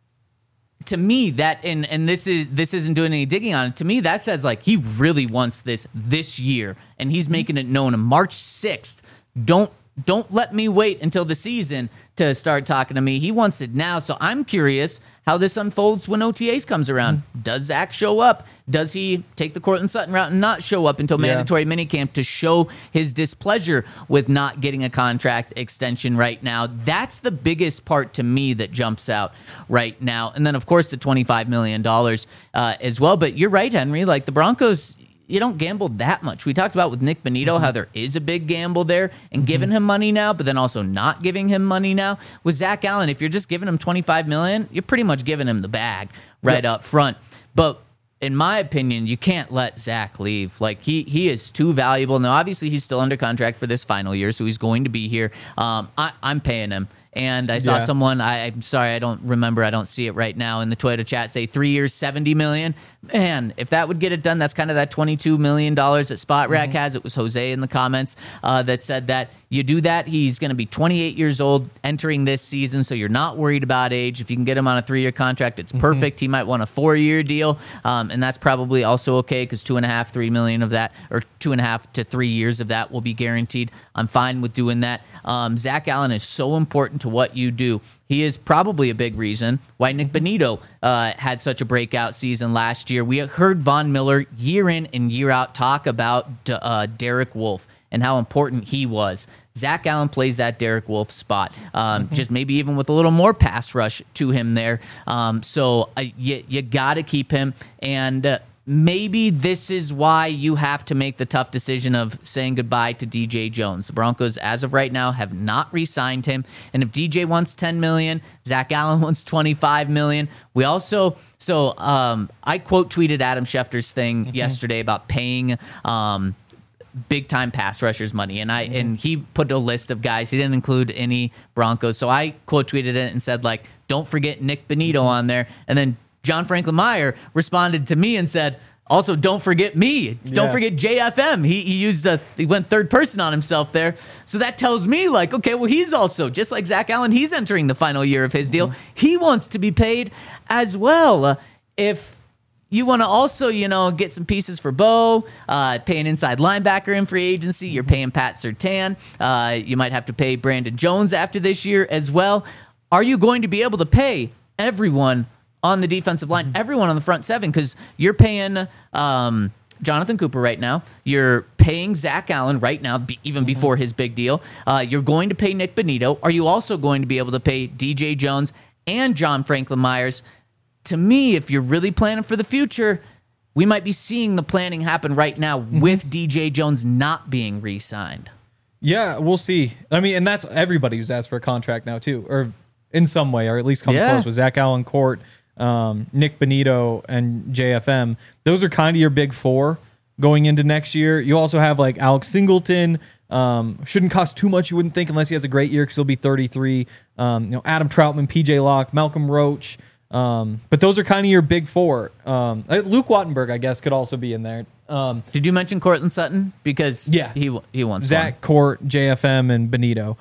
S1: to me, that and this isn't doing any digging on it. To me, that says like he really wants this year, and he's making it known on March 6th. Don't let me wait until the season to start talking to me. He wants it now. So I'm curious how this unfolds when OTAs comes around. Does Zach show up? Does he take the Cortland Sutton route and not show up until mandatory minicamp to show his displeasure with not getting a contract extension right now? That's the biggest part to me that jumps out right now. And then, of course, the $25 million as well. But you're right, Henry. Like the Broncos, you don't gamble that much. We talked about with Nick Bonito how there is a big gamble there and giving him money now, but then also not giving him money now. With Zach Allen, if you're just giving him $25 million, you're pretty much giving him the bag right up front. But in my opinion, you can't let Zach leave. Like he is too valuable. Now, obviously, he's still under contract for this final year, so he's going to be here. I'm paying him. And I saw someone, I'm sorry, I don't remember, I don't see it right now in the Toyota chat, say 3 years, $70 million. Man, if that would get it done, that's kind of that $22 million that SpotRack has. It was Jose in the comments that said that. You do that, he's going to be 28 years old entering this season, so you're not worried about age. If you can get him on a 3-year contract, it's perfect. He might want a 4-year deal, and that's probably also okay because $2.5-3 million of that, or 2.5 to 3 years of that will be guaranteed. I'm fine with doing that. Zach Allen is so important to what you do. He is probably a big reason why Nick Bonito had such a breakout season last year. We heard Von Miller year in and year out talk about Derek Wolfe and how important he was. Zach Allen plays that Derek Wolfe spot, just maybe even with a little more pass rush to him there. So you got to keep him. And maybe this is why you have to make the tough decision of saying goodbye to DJ Jones. The Broncos, as of right now, have not re-signed him. And if DJ wants $10 million, Zach Allen wants $25 million. We also, I quote tweeted Adam Schefter's thing yesterday about paying big time pass rushers money, and he put a list of guys. He didn't include any Broncos, so I quote tweeted it and said, like, don't forget Nick Benito on there. And then John Franklin Meyer responded to me and said, also, don't forget me. Don't forget JFM. He went third person on himself there. So that tells me, like, okay, well, he's also, just like Zach Allen, he's entering the final year of his deal. He wants to be paid as well. If you want to also, get some pieces for Bo, pay an inside linebacker in free agency, you're paying Pat Surtain. You might have to pay Brandon Jones after this year as well. Are you going to be able to pay everyone on the defensive line, everyone on the front seven? Because you're paying Jonathan Cooper right now. You're paying Zach Allen right now, even before his big deal. You're going to pay Nick Benito. Are you also going to be able to pay DJ Jones and John Franklin Myers? To me, if you're really planning for the future, we might be seeing the planning happen right now with DJ Jones not being re-signed.
S2: Yeah, we'll see. I mean, and that's everybody who's asked for a contract now too, or in some way, or at least come close with Zach Allen, Court, Nick Benito, and JFM. Those are kind of your big four going into next year. You also have like Alex Singleton. Shouldn't cost too much, you wouldn't think, unless he has a great year because he'll be 33. Adam Troutman, PJ Locke, Malcolm Roach. But those are kind of your big four. Luke Wattenberg, I guess, could also be in there.
S1: Did you mention Cortland Sutton? Because he wants
S2: Zach, Court, JFM, and Benito.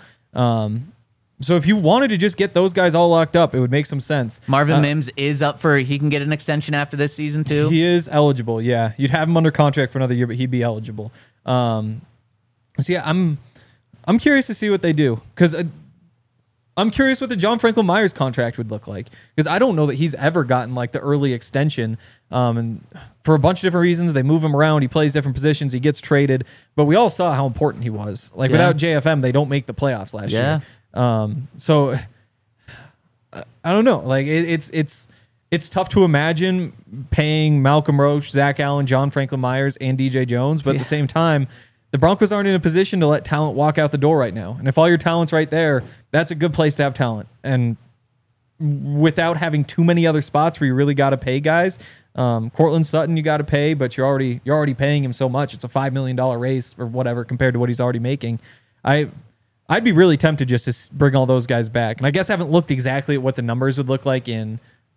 S2: So if you wanted to just get those guys all locked up, it would make some sense.
S1: Marvin Mims is up for, he can get an extension after this season too?
S2: He is eligible, yeah. You'd have him under contract for another year, but he'd be eligible. So yeah, I'm curious to see what they do, because I'm curious what the John Franklin Myers contract would look like, because I don't know that he's ever gotten like the early extension. And for a bunch of different reasons, they move him around. He plays different positions. He gets traded, but we all saw how important he was. Like without JFM, they don't make the playoffs last year. So I don't know. Like it's tough to imagine paying Malcolm Roach, Zach Allen, John Franklin Myers, and DJ Jones, but at the same time, the Broncos aren't in a position to let talent walk out the door right now. And if all your talent's right there, that's a good place to have talent. And without having too many other spots where you really got to pay guys, Cortland Sutton you got to pay, but you're already paying him so much. It's a $5 million raise or whatever compared to what he's already making. I'd be really tempted just to bring all those guys back. And I guess I haven't looked exactly at what the numbers would look like in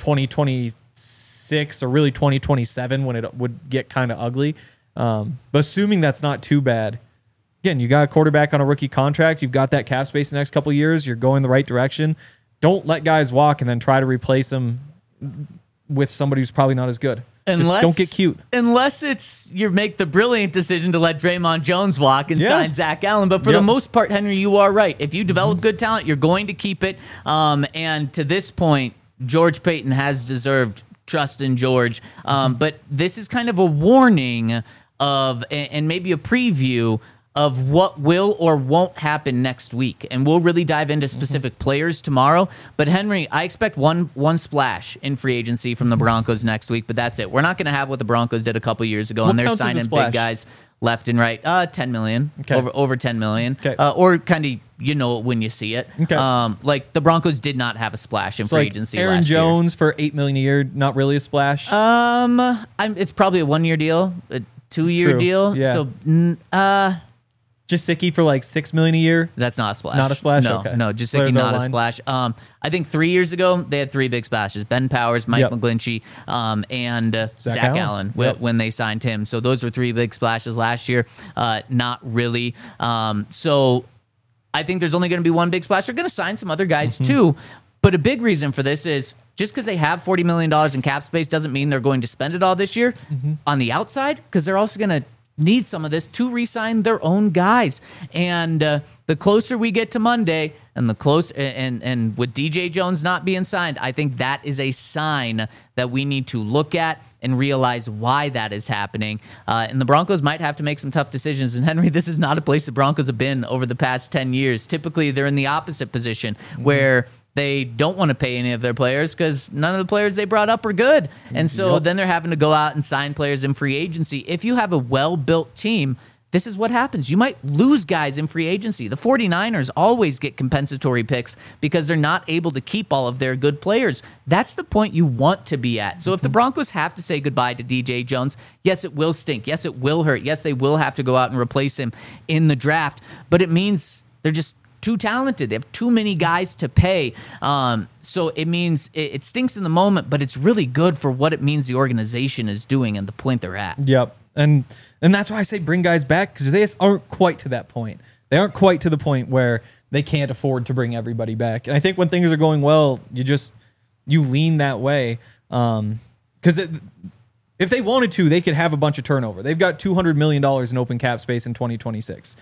S2: 2026 or really 2027 when it would get kind of ugly. But assuming that's not too bad, again, you got a quarterback on a rookie contract. You've got that cap space the next couple of years. You're going the right direction. Don't let guys walk and then try to replace them with somebody who's probably not as good. Just don't get cute.
S1: Unless you make the brilliant decision to let Draymond Jones walk and sign Zach Allen. But for the most part, Henry, you are right. If you develop good talent, you're going to keep it. And to this point, George Paton has deserved trust in George. But this is kind of a warning of, and maybe a preview of what will or won't happen next week. And we'll really dive into specific players tomorrow. But Henry, I expect one splash in free agency from the Broncos next week, but that's it. We're not going to have what the Broncos did a couple years ago, and they're signing big guys left and right. 10 million, over 10 million, or kind of, when you see it. Like the Broncos did not have a splash in free agency
S2: Aaron
S1: last
S2: Jones for $8 million a year, not really a splash.
S1: It's probably a 1 year deal, a 2 year deal.
S2: Yeah.
S1: So,
S2: Jasicki for like $6 million a year.
S1: That's not a splash.
S2: Not a splash.
S1: No,
S2: okay.
S1: no, Jasicki not a splash. I think 3 years ago they had three big splashes: Ben Powers, Mike McGlinchey, and Zach Allen when they signed him. So those were three big splashes last year. Not really. So I think there's only going to be one big splash. They're going to sign some other guys too. But a big reason for this is just because they have $40 million in cap space doesn't mean they're going to spend it all this year on the outside, because they're also going to need some of this to re-sign their own guys. And the closer we get to Monday, and with DJ Jones not being signed, I think that is a sign that we need to look at and realize why that is happening. And the Broncos might have to make some tough decisions. And Henry, this is not a place the Broncos have been over the past 10 years. Typically, they're in the opposite position where They don't want to pay any of their players because none of the players they brought up are good. And so then they're having to go out and sign players in free agency. If you have a well-built team, this is what happens. You might lose guys in free agency. The 49ers always get compensatory picks because they're not able to keep all of their good players. That's the point you want to be at. So if the Broncos have to say goodbye to DJ Jones, yes, it will stink. Yes, it will hurt. Yes, they will have to go out and replace him in the draft. But it means they're just too talented. They have too many guys to pay. So it means it stinks in the moment, but it's really good for what it means the organization is doing and the point they're at.
S2: Yep. And that's why I say bring guys back, because they just aren't quite to that point. They aren't quite to the point where they can't afford to bring everybody back. And I think when things are going well, you lean that way. Because if they wanted to, they could have a bunch of turnover. They've got $200 million in open cap space in 2026.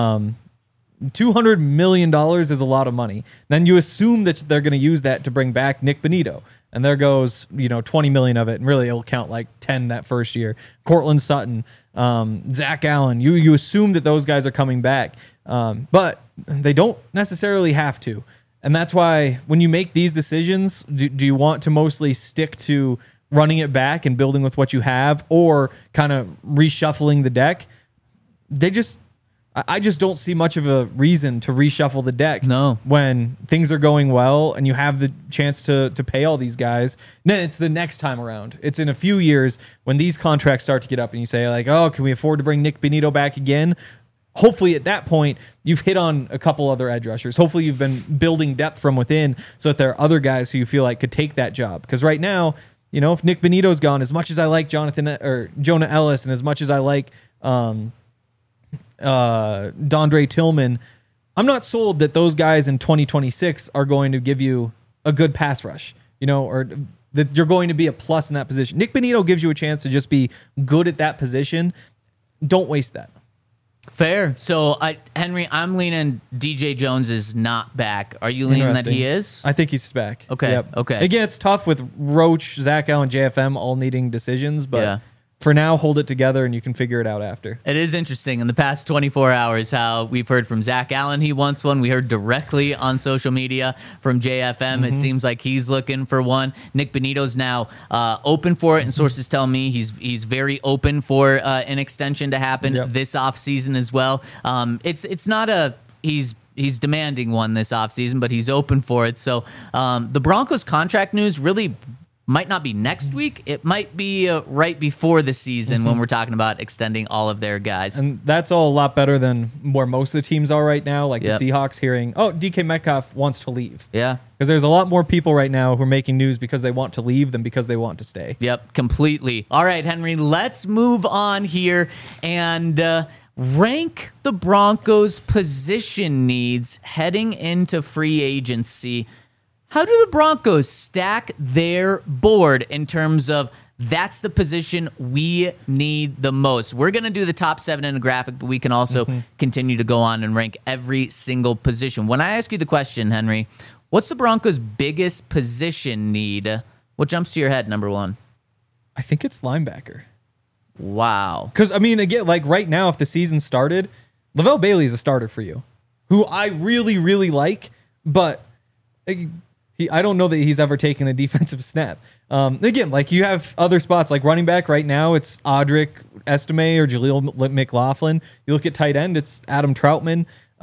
S2: $200 million is a lot of money. Then you assume that they're going to use that to bring back Nick Bonito. And there goes, 20 million of it. And really it'll count like 10 that first year. Cortland Sutton, Zach Allen. You assume that those guys are coming back. But they don't necessarily have to. And that's why when you make these decisions, do you want to mostly stick to running it back and building with what you have, or kind of reshuffling the deck? I just don't see much of a reason to reshuffle the deck.
S1: No.
S2: When things are going well and you have the chance to pay all these guys. Then it's the next time around. It's in a few years when these contracts start to get up and you say like, oh, can we afford to bring Nick Bonito back again? Hopefully at that point, you've hit on a couple other edge rushers. Hopefully you've been building depth from within so that there are other guys who you feel like could take that job. Because right now, if Nick Bonito's gone, as much as I like Jonah Ellis, and as much as I like Dondre Tillman, I'm not sold that those guys in 2026 are going to give you a good pass rush, or that you're going to be a plus in that position. Nick Bonito gives you a chance to just be good at that position. Don't waste that.
S1: Fair. So, Henry, I'm leaning DJ Jones is not back. Are you leaning that he is?
S2: I think he's back.
S1: Okay.
S2: Yep.
S1: Okay.
S2: Again, it's tough with Roach, Zach Allen, JFM all needing decisions, but
S1: Yeah.
S2: For now, hold it together and you can figure it out after.
S1: It is interesting in the past 24 hours how we've heard from Zach Allen. He wants one. We heard directly on social media from JFM. It seems like he's looking for one. Nick Bonito's now open for it, and sources tell me he's very open for an extension to happen this offseason as well. It's not he's demanding one this offseason, but he's open for it. So the Broncos contract news really might not be next week. It might be right before the season when we're talking about extending all of their guys.
S2: And that's all a lot better than where most of the teams are right now, like the Seahawks hearing, DK Metcalf wants to leave.
S1: Yeah.
S2: Because there's a lot more people right now who are making news because they want to leave than because they want to stay.
S1: Yep, completely. All right, Henry, let's move on here and rank the Broncos' position needs heading into free agency. How do the Broncos stack their board in terms of that's the position we need the most? We're going to do the top 7 in a graphic, but we can also continue to go on and rank every single position. When I ask you the question, Henry, what's the Broncos' biggest position need? What jumps to your head, number one?
S2: I think it's linebacker.
S1: Wow.
S2: Because, again, like right now, if the season started, Lavelle Bailey is a starter for you, who I really, really like, but I don't know that he's ever taken a defensive snap. Again, like you have other spots like running back right now, it's Audric Estime or Jaleel McLaughlin. You look at tight end, it's Adam Troutman.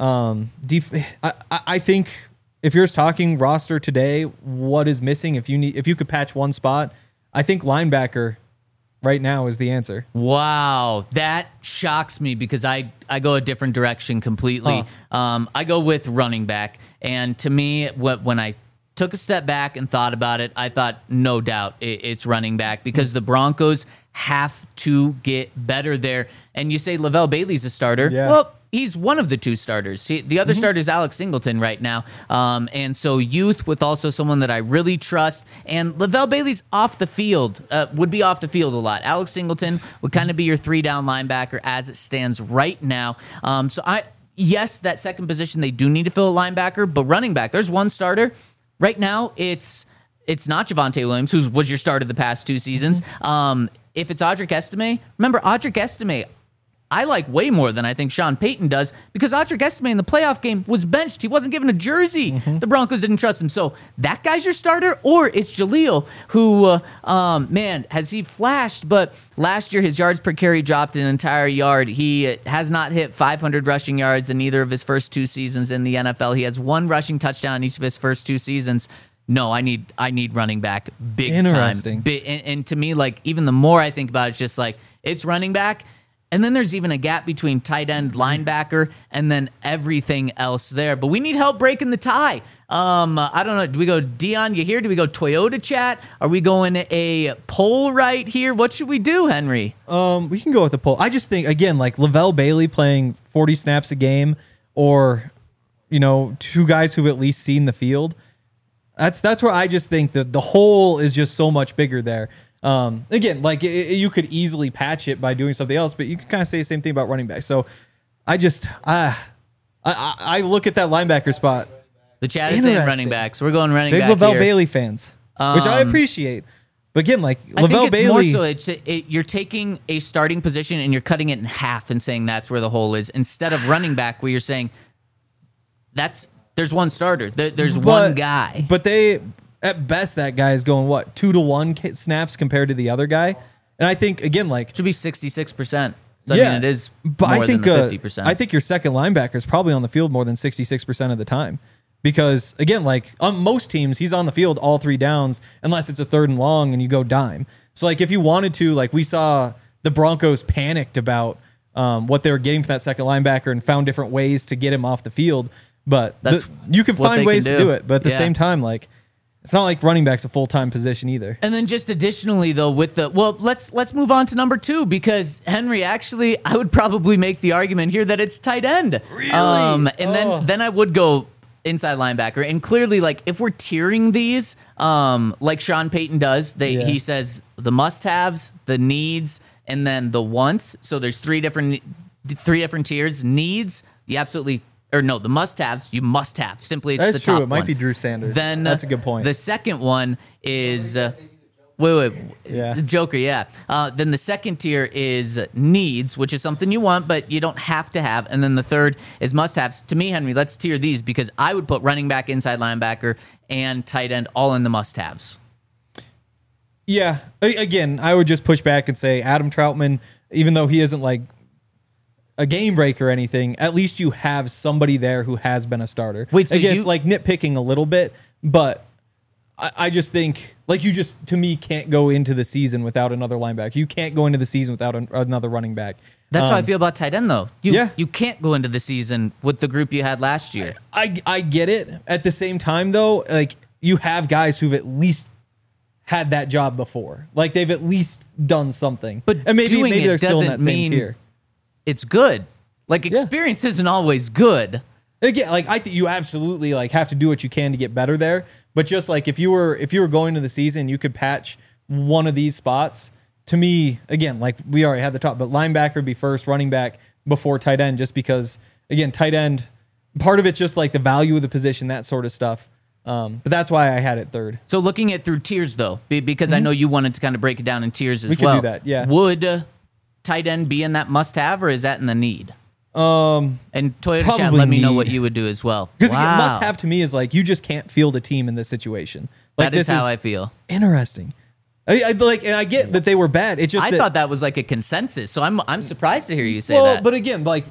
S2: I think if you're talking roster today, what is missing? If you could patch one spot, I think linebacker right now is the answer.
S1: Wow, that shocks me because I go a different direction completely. I go with running back, and to me, when I took a step back and thought about it, I thought, no doubt, it's running back because the Broncos have to get better there. And you say Lavelle Bailey's a starter.
S2: Yeah.
S1: Well, he's one of the two starters. The other starter is Alex Singleton right now. And so youth with also someone that I really trust. And Lavelle Bailey's off the field, would be off the field a lot. Alex Singleton would kind of be your 3-down linebacker as it stands right now. Yes, that second position, they do need to fill a linebacker, but running back, there's one starter. Right now, it's not Javonte Williams, who was your starter the past 2 seasons. If it's Audric Estime, remember, Audric Estime I like way more than I think Sean Payton does, because Audric Estime in the playoff game was benched. He wasn't given a jersey.
S2: Mm-hmm.
S1: The Broncos didn't trust him. So that guy's your starter, or it's Jaleel, who, man, has he flashed? But last year, his yards per carry dropped an entire yard. He has not hit 500 rushing yards in either of his first 2 seasons in the NFL. He has 1 rushing touchdown in each of his first 2 seasons. No, I need running back big time.
S2: Interesting.
S1: And to me, like, even the more I think about it, it's just like, it's running back. And then there's even a gap between tight end, linebacker, and then everything else there. But we need help breaking the tie. I don't know. Do we go Dion, you here? Do we go Toyota chat? Are we going a poll right here? What should we do, Henry?
S2: We can go with the poll. I just think, again, like Lavelle Bailey playing 40 snaps a game, or, 2 guys who've at least seen the field. That's where I just think that the hole is just so much bigger there. Again, like you could easily patch it by doing something else, but you can kind of say the same thing about running back. So I just I look at that linebacker spot.
S1: The chat is saying running back, so we're going running
S2: Big
S1: back
S2: Lavelle
S1: here.
S2: Bailey fans, which I appreciate. But again, like Lavelle
S1: I think it's
S2: Bailey,
S1: more so you're taking a starting position and you're cutting it in half and saying that's where the hole is, instead of running back where you're saying there's one starter, there's one guy.
S2: But at best, that guy is going, 2-to-1 snaps compared to the other guy? And I think, again, like...
S1: It should be 66%. So, I mean, it is
S2: but
S1: more
S2: I think,
S1: than the 50%.
S2: I think your second linebacker is probably on the field more than 66% of the time. Because, again, like, on most teams, he's on the field all 3 downs, unless it's a 3rd and long and you go dime. So, like, if you wanted to, like, we saw the Broncos panicked about what they were getting for that second linebacker and found different ways to get him off the field. But you can find ways to do it. But at the same time, like... It's not like running back's a full-time position either.
S1: And then just additionally, though, let's move on to number 2, because Henry, actually, I would probably make the argument here that it's tight end.
S2: Really?
S1: Then I would go inside linebacker. And clearly, like, if we're tiering these, like Sean Payton does, he says the must-haves, the needs, and then the wants. So there's 3 different tiers. Needs, you absolutely... Or no, the must-haves, you must have. Simply, it's
S2: That's
S1: the top
S2: true. It might
S1: one.
S2: be Drew Sanders.
S1: Then
S2: that's a good point.
S1: The second one is wait,
S2: yeah,
S1: the Joker, yeah. Then the second tier is needs, which is something you want, but you don't have to have. And then the third is must-haves. To me, Henry, let's tier these, because I would put running back, inside linebacker, and tight end all in the must-haves.
S2: Yeah. Again, I would just push back and say Adam Troutman, even though he isn't like a game breaker or anything, at least you have somebody there who has been a starter.
S1: Wait, so
S2: again, it's like nitpicking a little bit, but I just think, like, you just, to me, can't go into the season without another linebacker. You can't go into the season without another running back.
S1: That's how I feel about tight end, though.
S2: Yeah.
S1: You can't go into the season with the group you had last year.
S2: I get it. At the same time, though, like, you have guys who've at least had that job before. Like, they've at least done something.
S1: But
S2: and maybe
S1: doing it
S2: they're still in that
S1: doesn't
S2: same
S1: mean
S2: tier.
S1: It's good. Like, experience isn't always good.
S2: Again, like, I think you absolutely like have to do what you can to get better there. But just like if you were going to the season, you could patch one of these spots. To me, again, like we already had the top, but linebacker would be first, running back before tight end, just because, again, tight end, part of it's just like the value of the position, that sort of stuff. But that's why I had it third.
S1: So looking at through tiers, though, because I know you wanted to kind of break it down in tiers as
S2: We
S1: well.
S2: could do that, yeah.
S1: Would tight end be in that must-have, or is that in the need? And Toyota chat,
S2: probably
S1: let me know
S2: need.
S1: what you would do as well.
S2: Because again, must-have to me is like you just can't field a team in this situation. Like,
S1: That is
S2: this
S1: how I feel.
S2: Interesting. I like, and I get that they were bad. It's just
S1: I thought that was like a consensus, so I'm surprised to hear you say
S2: well,
S1: that.
S2: but again, like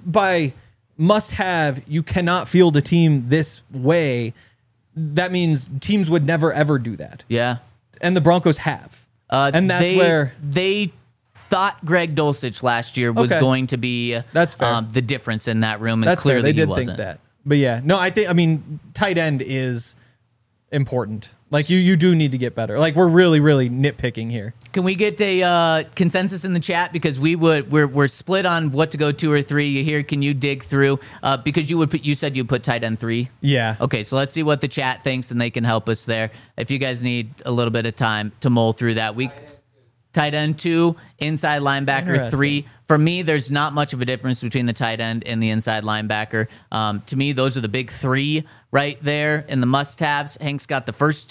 S2: by must-have, you cannot field a team this way. That means teams would never ever do that,
S1: yeah.
S2: and the Broncos have, and that's where
S1: they thought Greg Dulcich last year was
S2: Okay.
S1: going to be
S2: That's fair.
S1: The difference in that room, and
S2: that's fair.
S1: clearly
S2: They
S1: he
S2: did
S1: wasn't.
S2: think that, but yeah, no, I mean, tight end is important. Like you do need to get better. Like we're really nitpicking here.
S1: Can we get a consensus in the chat, because we're split on what to go 2 or 3 here? Can you dig through because you said you put tight end 3?
S2: Yeah.
S1: Okay, so let's see what the chat thinks, and they can help us there. If you guys need a little bit of time to mull through that, tight end 2, inside linebacker 3. For me, there's not much of a difference between the tight end and the inside linebacker. To me, those are the big 3 right there in the must-haves. Hank's got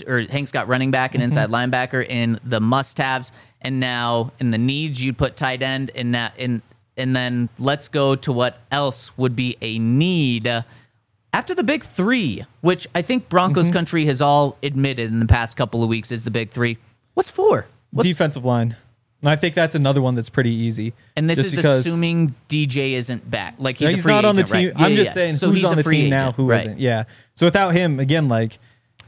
S1: running back and inside linebacker in the must-haves, and now in the needs, you'd put tight end, and and then let's go to what else would be a need after the big three, which I think Broncos country has all admitted in the past couple of weeks is the big three. What's four?
S2: Defensive line. And I think that's another one that's pretty easy.
S1: And this
S2: just
S1: is
S2: because
S1: assuming DJ isn't back. Like he's a
S2: he's
S1: free
S2: not on the
S1: agent,
S2: team.
S1: right?
S2: I'm just saying
S1: So
S2: who's
S1: he's
S2: on
S1: a
S2: the
S1: free
S2: team now,
S1: agent,
S2: who
S1: right.
S2: not Yeah. So without him, again, like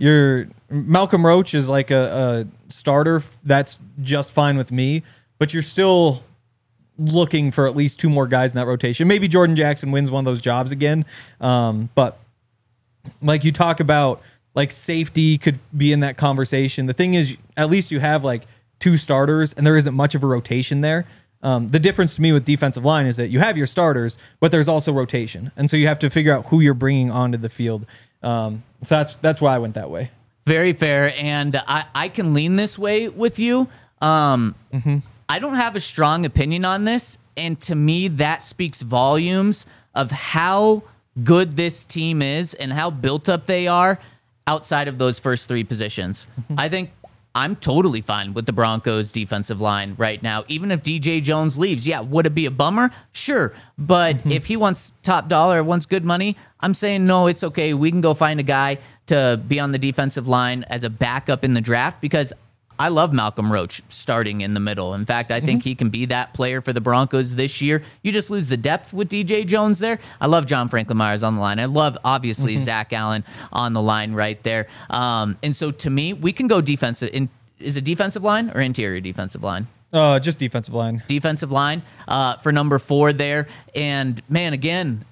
S2: Malcolm Roach is like a starter that's just fine with me, but you're still looking for at least two more guys in that rotation. Maybe Jordan Jackson wins one of those jobs again. But like you talk about, like safety could be in that conversation. The thing is, at least you have like two starters and there isn't much of a rotation there. The difference to me with defensive line is that you have your starters, but there's also rotation. And so you have to figure out who you're bringing onto the field. So that's why I went that way.
S1: Very fair. And I can lean this way with you. I don't have a strong opinion on this. And to me, that speaks volumes of how good this team is and how built up they are outside of those first three positions. I think I'm totally fine with the Broncos defensive line right now. Even if DJ Jones leaves, yeah, would it be a bummer? Sure. But if he wants top dollar, wants good money, I'm saying, no, it's okay. We can go find a guy to be on the defensive line as a backup in the draft because I love Malcolm Roach starting in the middle. In fact, I think he can be that player for the Broncos this year. You just lose the depth with DJ Jones there. I love John Franklin Myers on the line. I love, obviously, Zach Allen on the line right there. And so, to me, we can go defensive. Is it defensive line or interior defensive line?
S2: Just defensive line.
S1: Defensive line for number 4 there. And, man, again,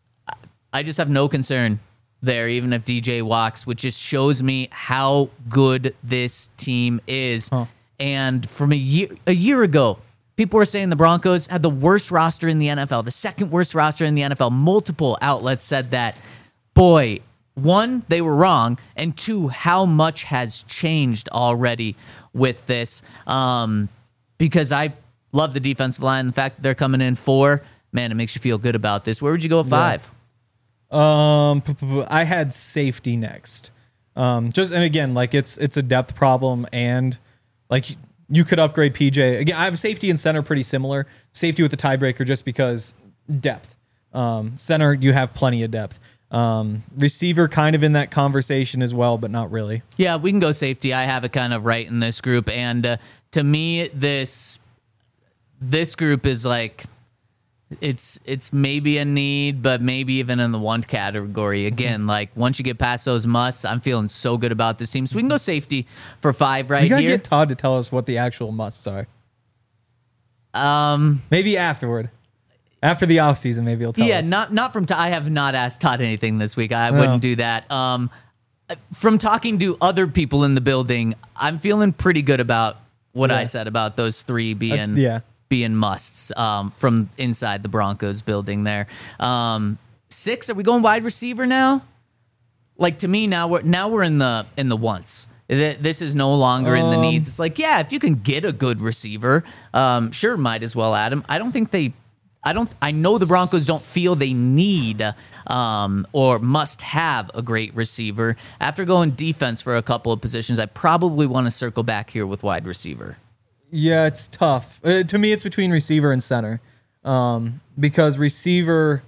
S1: I just have no concern there, even if DJ walks, which just shows me how good this team is. And from a year ago, people were saying the Broncos had the worst roster in the NFL, the second worst roster in the NFL. Multiple outlets said that. Boy, 1, they were wrong, and 2, how much has changed already with this. Because I love the defensive line. The fact that they're coming in 4, man, it makes you feel good about this. Where would you go at 5?
S2: I had safety next. And again, like it's a depth problem, and like you could upgrade PJ. Again, I have safety and center pretty similar. Safety with the tiebreaker just because depth. Center, you have plenty of depth. Receiver kind of in that conversation as well, but not really.
S1: Yeah, we can go safety. I have it kind of right in this group, and to me, this group is like. It's maybe a need, but maybe even in the want category. Again, like once you get past those musts, I'm feeling so good about this team. So we can go safety for 5 right
S2: here. You gotta
S1: here.
S2: get Todd to tell us what the actual musts are. Maybe afterward. After the offseason, maybe he'll tell us.
S1: Yeah, not from Todd. I have not asked Todd anything this week. I wouldn't do that. From talking to other people in the building, I'm feeling pretty good about what I said about those 3 being musts from inside the Broncos building there. 6, are we going wide receiver now? Like to me now we're in the wants. This is no longer in the needs. It's like, yeah, if you can get a good receiver, sure, might as well add him. I know the Broncos don't feel they need or must have a great receiver. After going defense for a couple of positions, I probably want to circle back here with wide receiver.
S2: Yeah, it's tough. To me, it's between receiver and center. Because receiver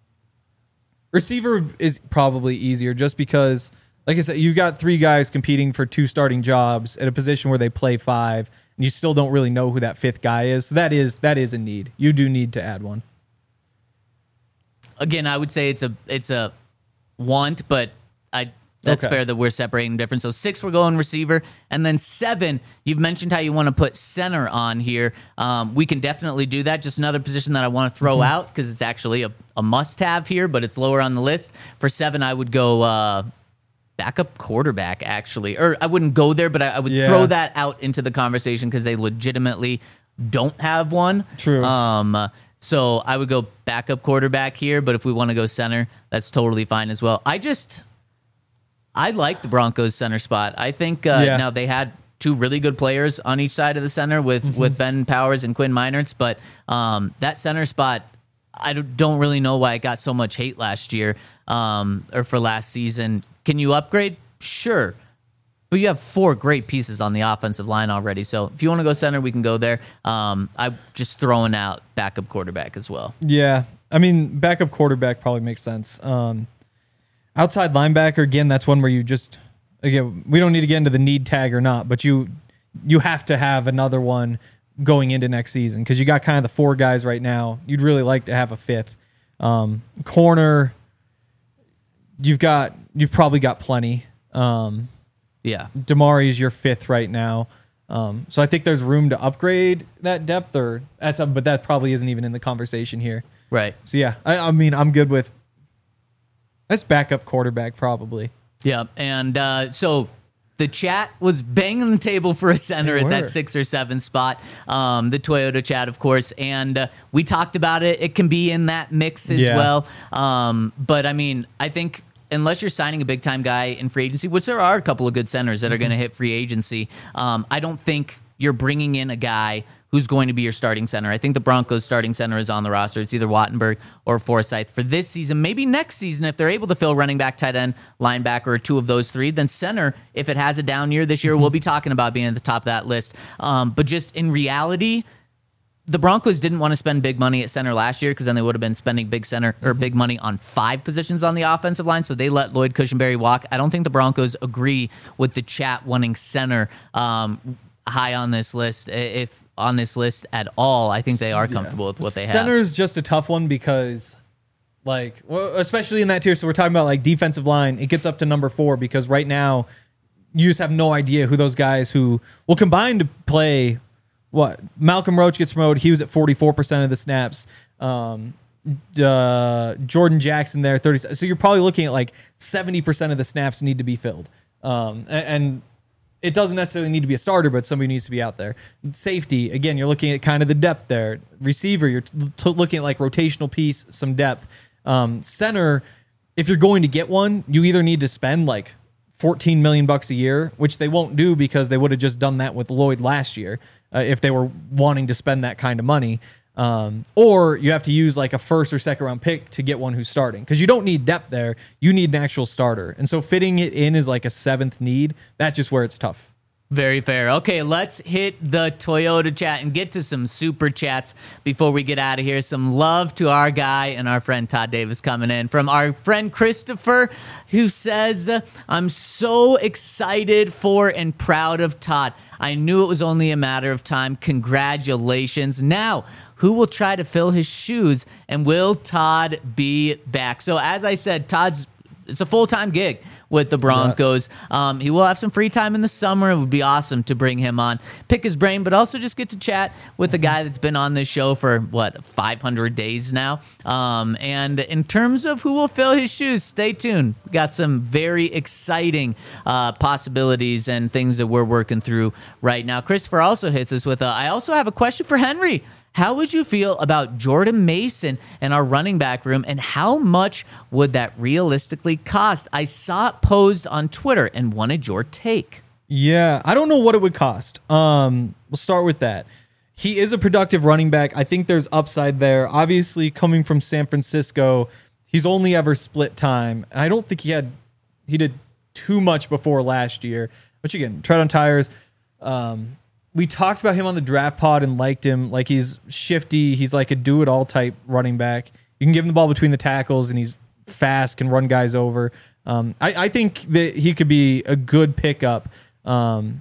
S2: is probably easier just because, like I said, you got 3 guys competing for 2 starting jobs at a position where they play 5, and you still don't really know who that 5th guy is. So that is a need. You do need to add one.
S1: Again, I would say it's a want, but that's fair that we're separating different. So 6, we're going receiver. And then 7, you've mentioned how you want to put center on here. We can definitely do that. Just another position that I want to throw out because it's actually a must-have here, but it's lower on the list. For 7, I would go backup quarterback, actually. Or I wouldn't go there, but I would throw that out into the conversation because they legitimately don't have one.
S2: True.
S1: So I would go backup quarterback here, but if we want to go center, that's totally fine as well. I like the Broncos center spot. I think now they had 2 really good players on each side of the center with Ben Powers and Quinn Meinerz, but that center spot, I don't really know why it got so much hate last year or for last season. Can you upgrade? Sure. But you have 4 great pieces on the offensive line already. So if you want to go center, we can go there. I'm just throwing out backup quarterback as well.
S2: Yeah. I mean, backup quarterback probably makes sense. Outside linebacker, again, that's one where you just, again, we don't need to get into the need tag or not, but you have to have another one going into next season because you got kind of the 4 guys right now. You'd really like to have a 5th. Corner, you've probably got plenty.
S1: Yeah.
S2: Damari's your 5th right now. So I think there's room to upgrade that depth, but that probably isn't even in the conversation here.
S1: Right.
S2: So yeah, I mean, I'm good with that's backup quarterback probably.
S1: Yeah. And so the chat was banging the table for a center at that 6 or 7 spot. The Toyota chat, of course. And we talked about it. It can be in that mix as well. But I mean, I think unless you're signing a big time guy in free agency, which there are a couple of good centers that are going to hit free agency, I don't think you're bringing in a guy who's going to be your starting center. I think the Broncos starting center is on the roster. It's either Wattenberg or Forsythe for this season. Maybe next season, if they're able to fill running back, tight end, linebacker, or 2 of those 3, then center, if it has a down year this year, we'll be talking about being at the top of that list. But just in reality, the Broncos didn't want to spend big money at center last year because then they would have been spending big money on 5 positions on the offensive line. So they let Lloyd Cushenberry walk. I don't think the Broncos agree with the chat wanting center high on this list. If on this list at all, I think they are comfortable with what they have.
S2: Center's just a tough one because, especially in that tier. So we're talking about like defensive line. It gets up to number 4 because right now you just have no idea who those guys who will combine to play. What Malcolm Roach gets promoted. He was at 44% of the snaps. Jordan Jackson there 30. So you're probably looking at like 70% of the snaps need to be filled. And it doesn't necessarily need to be a starter, but somebody needs to be out there. Safety, again, you're looking at kind of the depth there. Receiver, you're looking at like rotational piece, some depth. Center, if you're going to get one, you either need to spend like $14 million a year, which they won't do because they would have just done that with Lloyd last year if they were wanting to spend that kind of money. Or you have to use like a 1st or 2nd round pick to get one who's starting because you don't need depth there. You need an actual starter. And so fitting it in is like a 7th need. That's just where it's tough.
S1: Very fair. Okay, let's hit the Toyota chat and get to some super chats before we get out of here. Some love to our guy and our friend Todd Davis coming in from our friend Christopher, who says, I'm so excited for and proud of Todd. I knew it was only a matter of time. Congratulations. Now, who will try to fill his shoes, and will Todd be back? So as I said, it's a full-time gig with the Broncos. Yes. He will have some free time in the summer. It would be awesome to bring him on, pick his brain, but also just get to chat with a guy that's been on this show for, 500 days now. And in terms of who will fill his shoes, stay tuned. We got some very exciting possibilities and things that we're working through right now. Christopher also hits us with I also have a question for Henry. How would you feel about Jordan Mason and our running back room, and how much would that realistically cost? I saw it posed on Twitter and wanted your take.
S2: Yeah, I don't know what it would cost. We'll start with that. He is a productive running back. I think there's upside there. Obviously, coming from San Francisco, he's only ever split time. And I don't think he did too much before last year. Which again, tread on tires. We talked about him on the draft pod and liked him. Like, he's shifty. He's like a do-it-all type running back. You can give him the ball between the tackles, and he's fast, can run guys over. I think that he could be a good pickup. And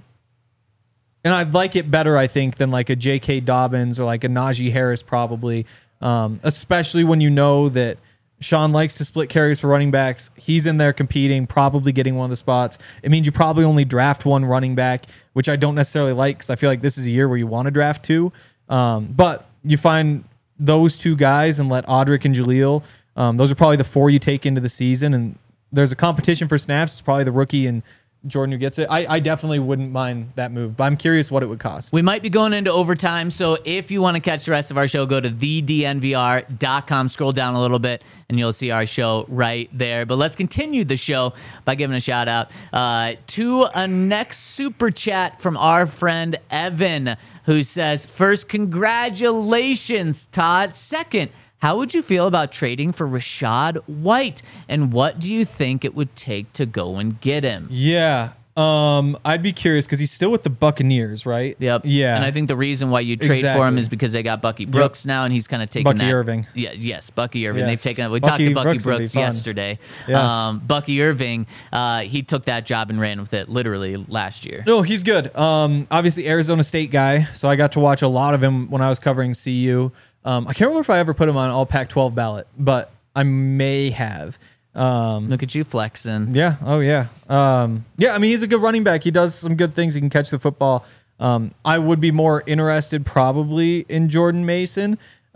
S2: I'd like it better, I think, than like a J.K. Dobbins or like a Najee Harris probably, especially when you know that Sean likes to split carries for running backs. He's in there competing, probably getting one of the spots. It means you probably only draft one running back, which I don't necessarily like because I feel like this is a year where you want to draft 2. But you find those 2 guys and let Audric and Jaleel, those are probably the 4 you take into the season. And there's a competition for snaps. It's probably the rookie and Jordan who gets it. I definitely wouldn't mind that move, but I'm curious what it would cost.
S1: We might be going into overtime, so if you want to catch the rest of our show, go to thednvr.com, scroll down a little bit, and you'll see our show right there. But let's continue the show by giving a shout out to a next super chat from our friend Evan, who says, first, congratulations, Todd. Second, how would you feel about trading for Rachaad White? And what do you think it would take to go and get him?
S2: Yeah. I'd be curious because he's still with the Buccaneers, right?
S1: Yep.
S2: Yeah.
S1: And I think the reason why you trade for him
S2: Exactly.
S1: is because they got Bucky Brooks now, and he's kind of taken
S2: Bucky
S1: that.
S2: Irving.
S1: Yeah. Yes, Bucky Irving.
S2: Yes.
S1: They've taken. We
S2: Bucky
S1: talked to Bucky
S2: Brooks would be
S1: Brooks
S2: fun.
S1: yesterday.
S2: Yes.
S1: Bucky Irving. He took that job and ran with it literally last year.
S2: No, he's good. Obviously Arizona State guy, so I got to watch a lot of him when I was covering CU. I can't remember if I ever put him on all Pac-12 ballot, but I may have.
S1: Look at you flexing.
S2: Yeah. Oh, yeah. Yeah, I mean, he's a good running back. He does some good things. He can catch the football. I would be more interested probably in Jordan Mason.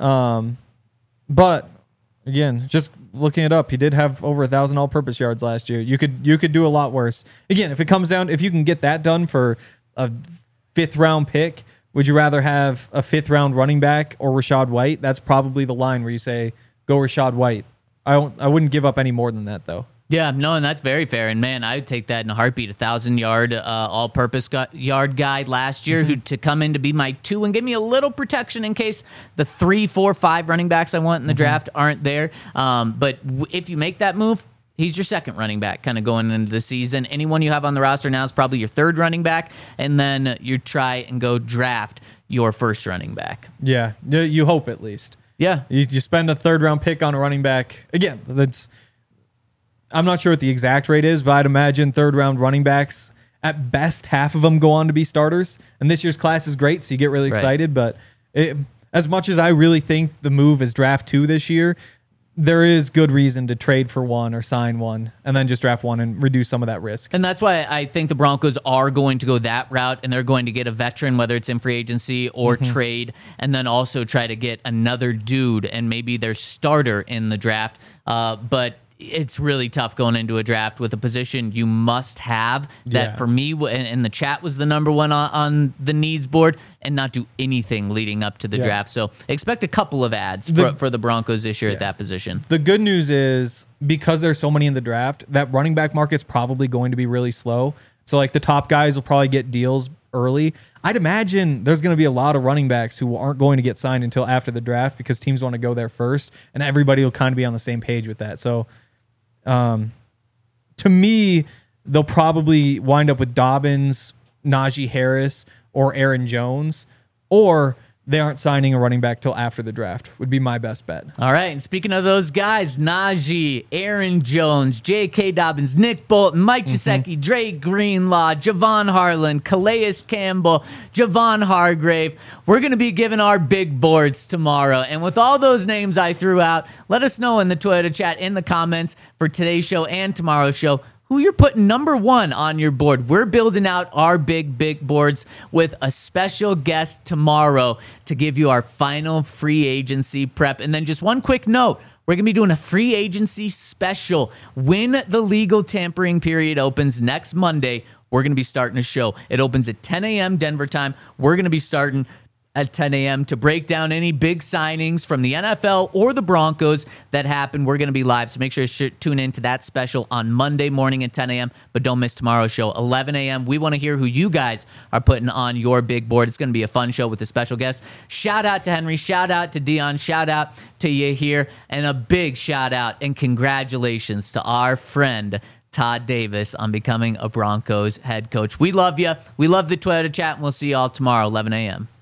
S2: But again, just looking it up, he did have over 1,000 all-purpose yards last year. You could do a lot worse. Again, if it comes down, if you can get that done for a 5th-round pick, would you rather have a 5th-round running back or Rachaad White? That's probably the line where you say, go Rachaad White. I wouldn't give up any more than that, though.
S1: Yeah, no, and that's very fair. And man, I would take that in a heartbeat. 1,000-yard all-purpose yard guy last year who to come in to be my 2 and give me a little protection in case the 3, 4, 5 running backs I want in the draft aren't there. But if you make that move, he's your 2nd running back kind of going into the season. Anyone you have on the roster now is probably your 3rd running back, and then you try and go draft your 1st running back.
S2: Yeah, you hope at least.
S1: Yeah.
S2: You spend a 3rd-round pick on a running back. Again, I'm not sure what the exact rate is, but I'd imagine 3rd-round running backs, at best, half of them go on to be starters. And this year's class is great, so you get really excited. But as much as I really think the move is draft 2 this year, there is good reason to trade for one or sign one and then just draft one and reduce some of that risk.
S1: And that's why I think the Broncos are going to go that route, and they're going to get a veteran, whether it's in free agency or trade, and then also try to get another dude and maybe their starter in the draft. But it's really tough going into a draft with a position you must have that for me, and the chat was the number one on the needs board, and not do anything leading up to the draft. So expect a couple of ads for the Broncos this year at that position.
S2: The good news is because there's so many in the draft, that running back market's probably going to be really slow. So like the top guys will probably get deals early. I'd imagine there's going to be a lot of running backs who aren't going to get signed until after the draft because teams want to go there first, and everybody will kind of be on the same page with that. So to me, they'll probably wind up with Dobbins, Najee Harris, or Aaron Jones, or they aren't signing a running back till after the draft would be my best bet.
S1: All right, and speaking of those guys, Najee, Aaron Jones, J.K. Dobbins, Nick Bolton, Mike Gesicki, Dre Greenlaw, Javon Harlan, Calais Campbell, Javon Hargrave. We're going to be giving our big boards tomorrow. And with all those names I threw out, let us know in the Toyota chat in the comments for today's show and tomorrow's show who you're putting number 1 on your board. We're building out our big boards with a special guest tomorrow to give you our final free agency prep. And then just one quick note, we're going to be doing a free agency special. When the legal tampering period opens next Monday, we're going to be starting a show. It opens at 10 a.m. Denver time. We're going to be starting at 10 a.m. to break down any big signings from the NFL or the Broncos that happen. We're going to be live, so make sure to tune in to that special on Monday morning at 10 a.m., but don't miss tomorrow's show, 11 a.m. We want to hear who you guys are putting on your big board. It's going to be a fun show with a special guest. Shout out to Henry. Shout out to Dion. Shout out to you here. And a big shout out and congratulations to our friend Todd Davis on becoming a Broncos head coach. We love you. We love the Toyota chat, and we'll see you all tomorrow, 11 a.m.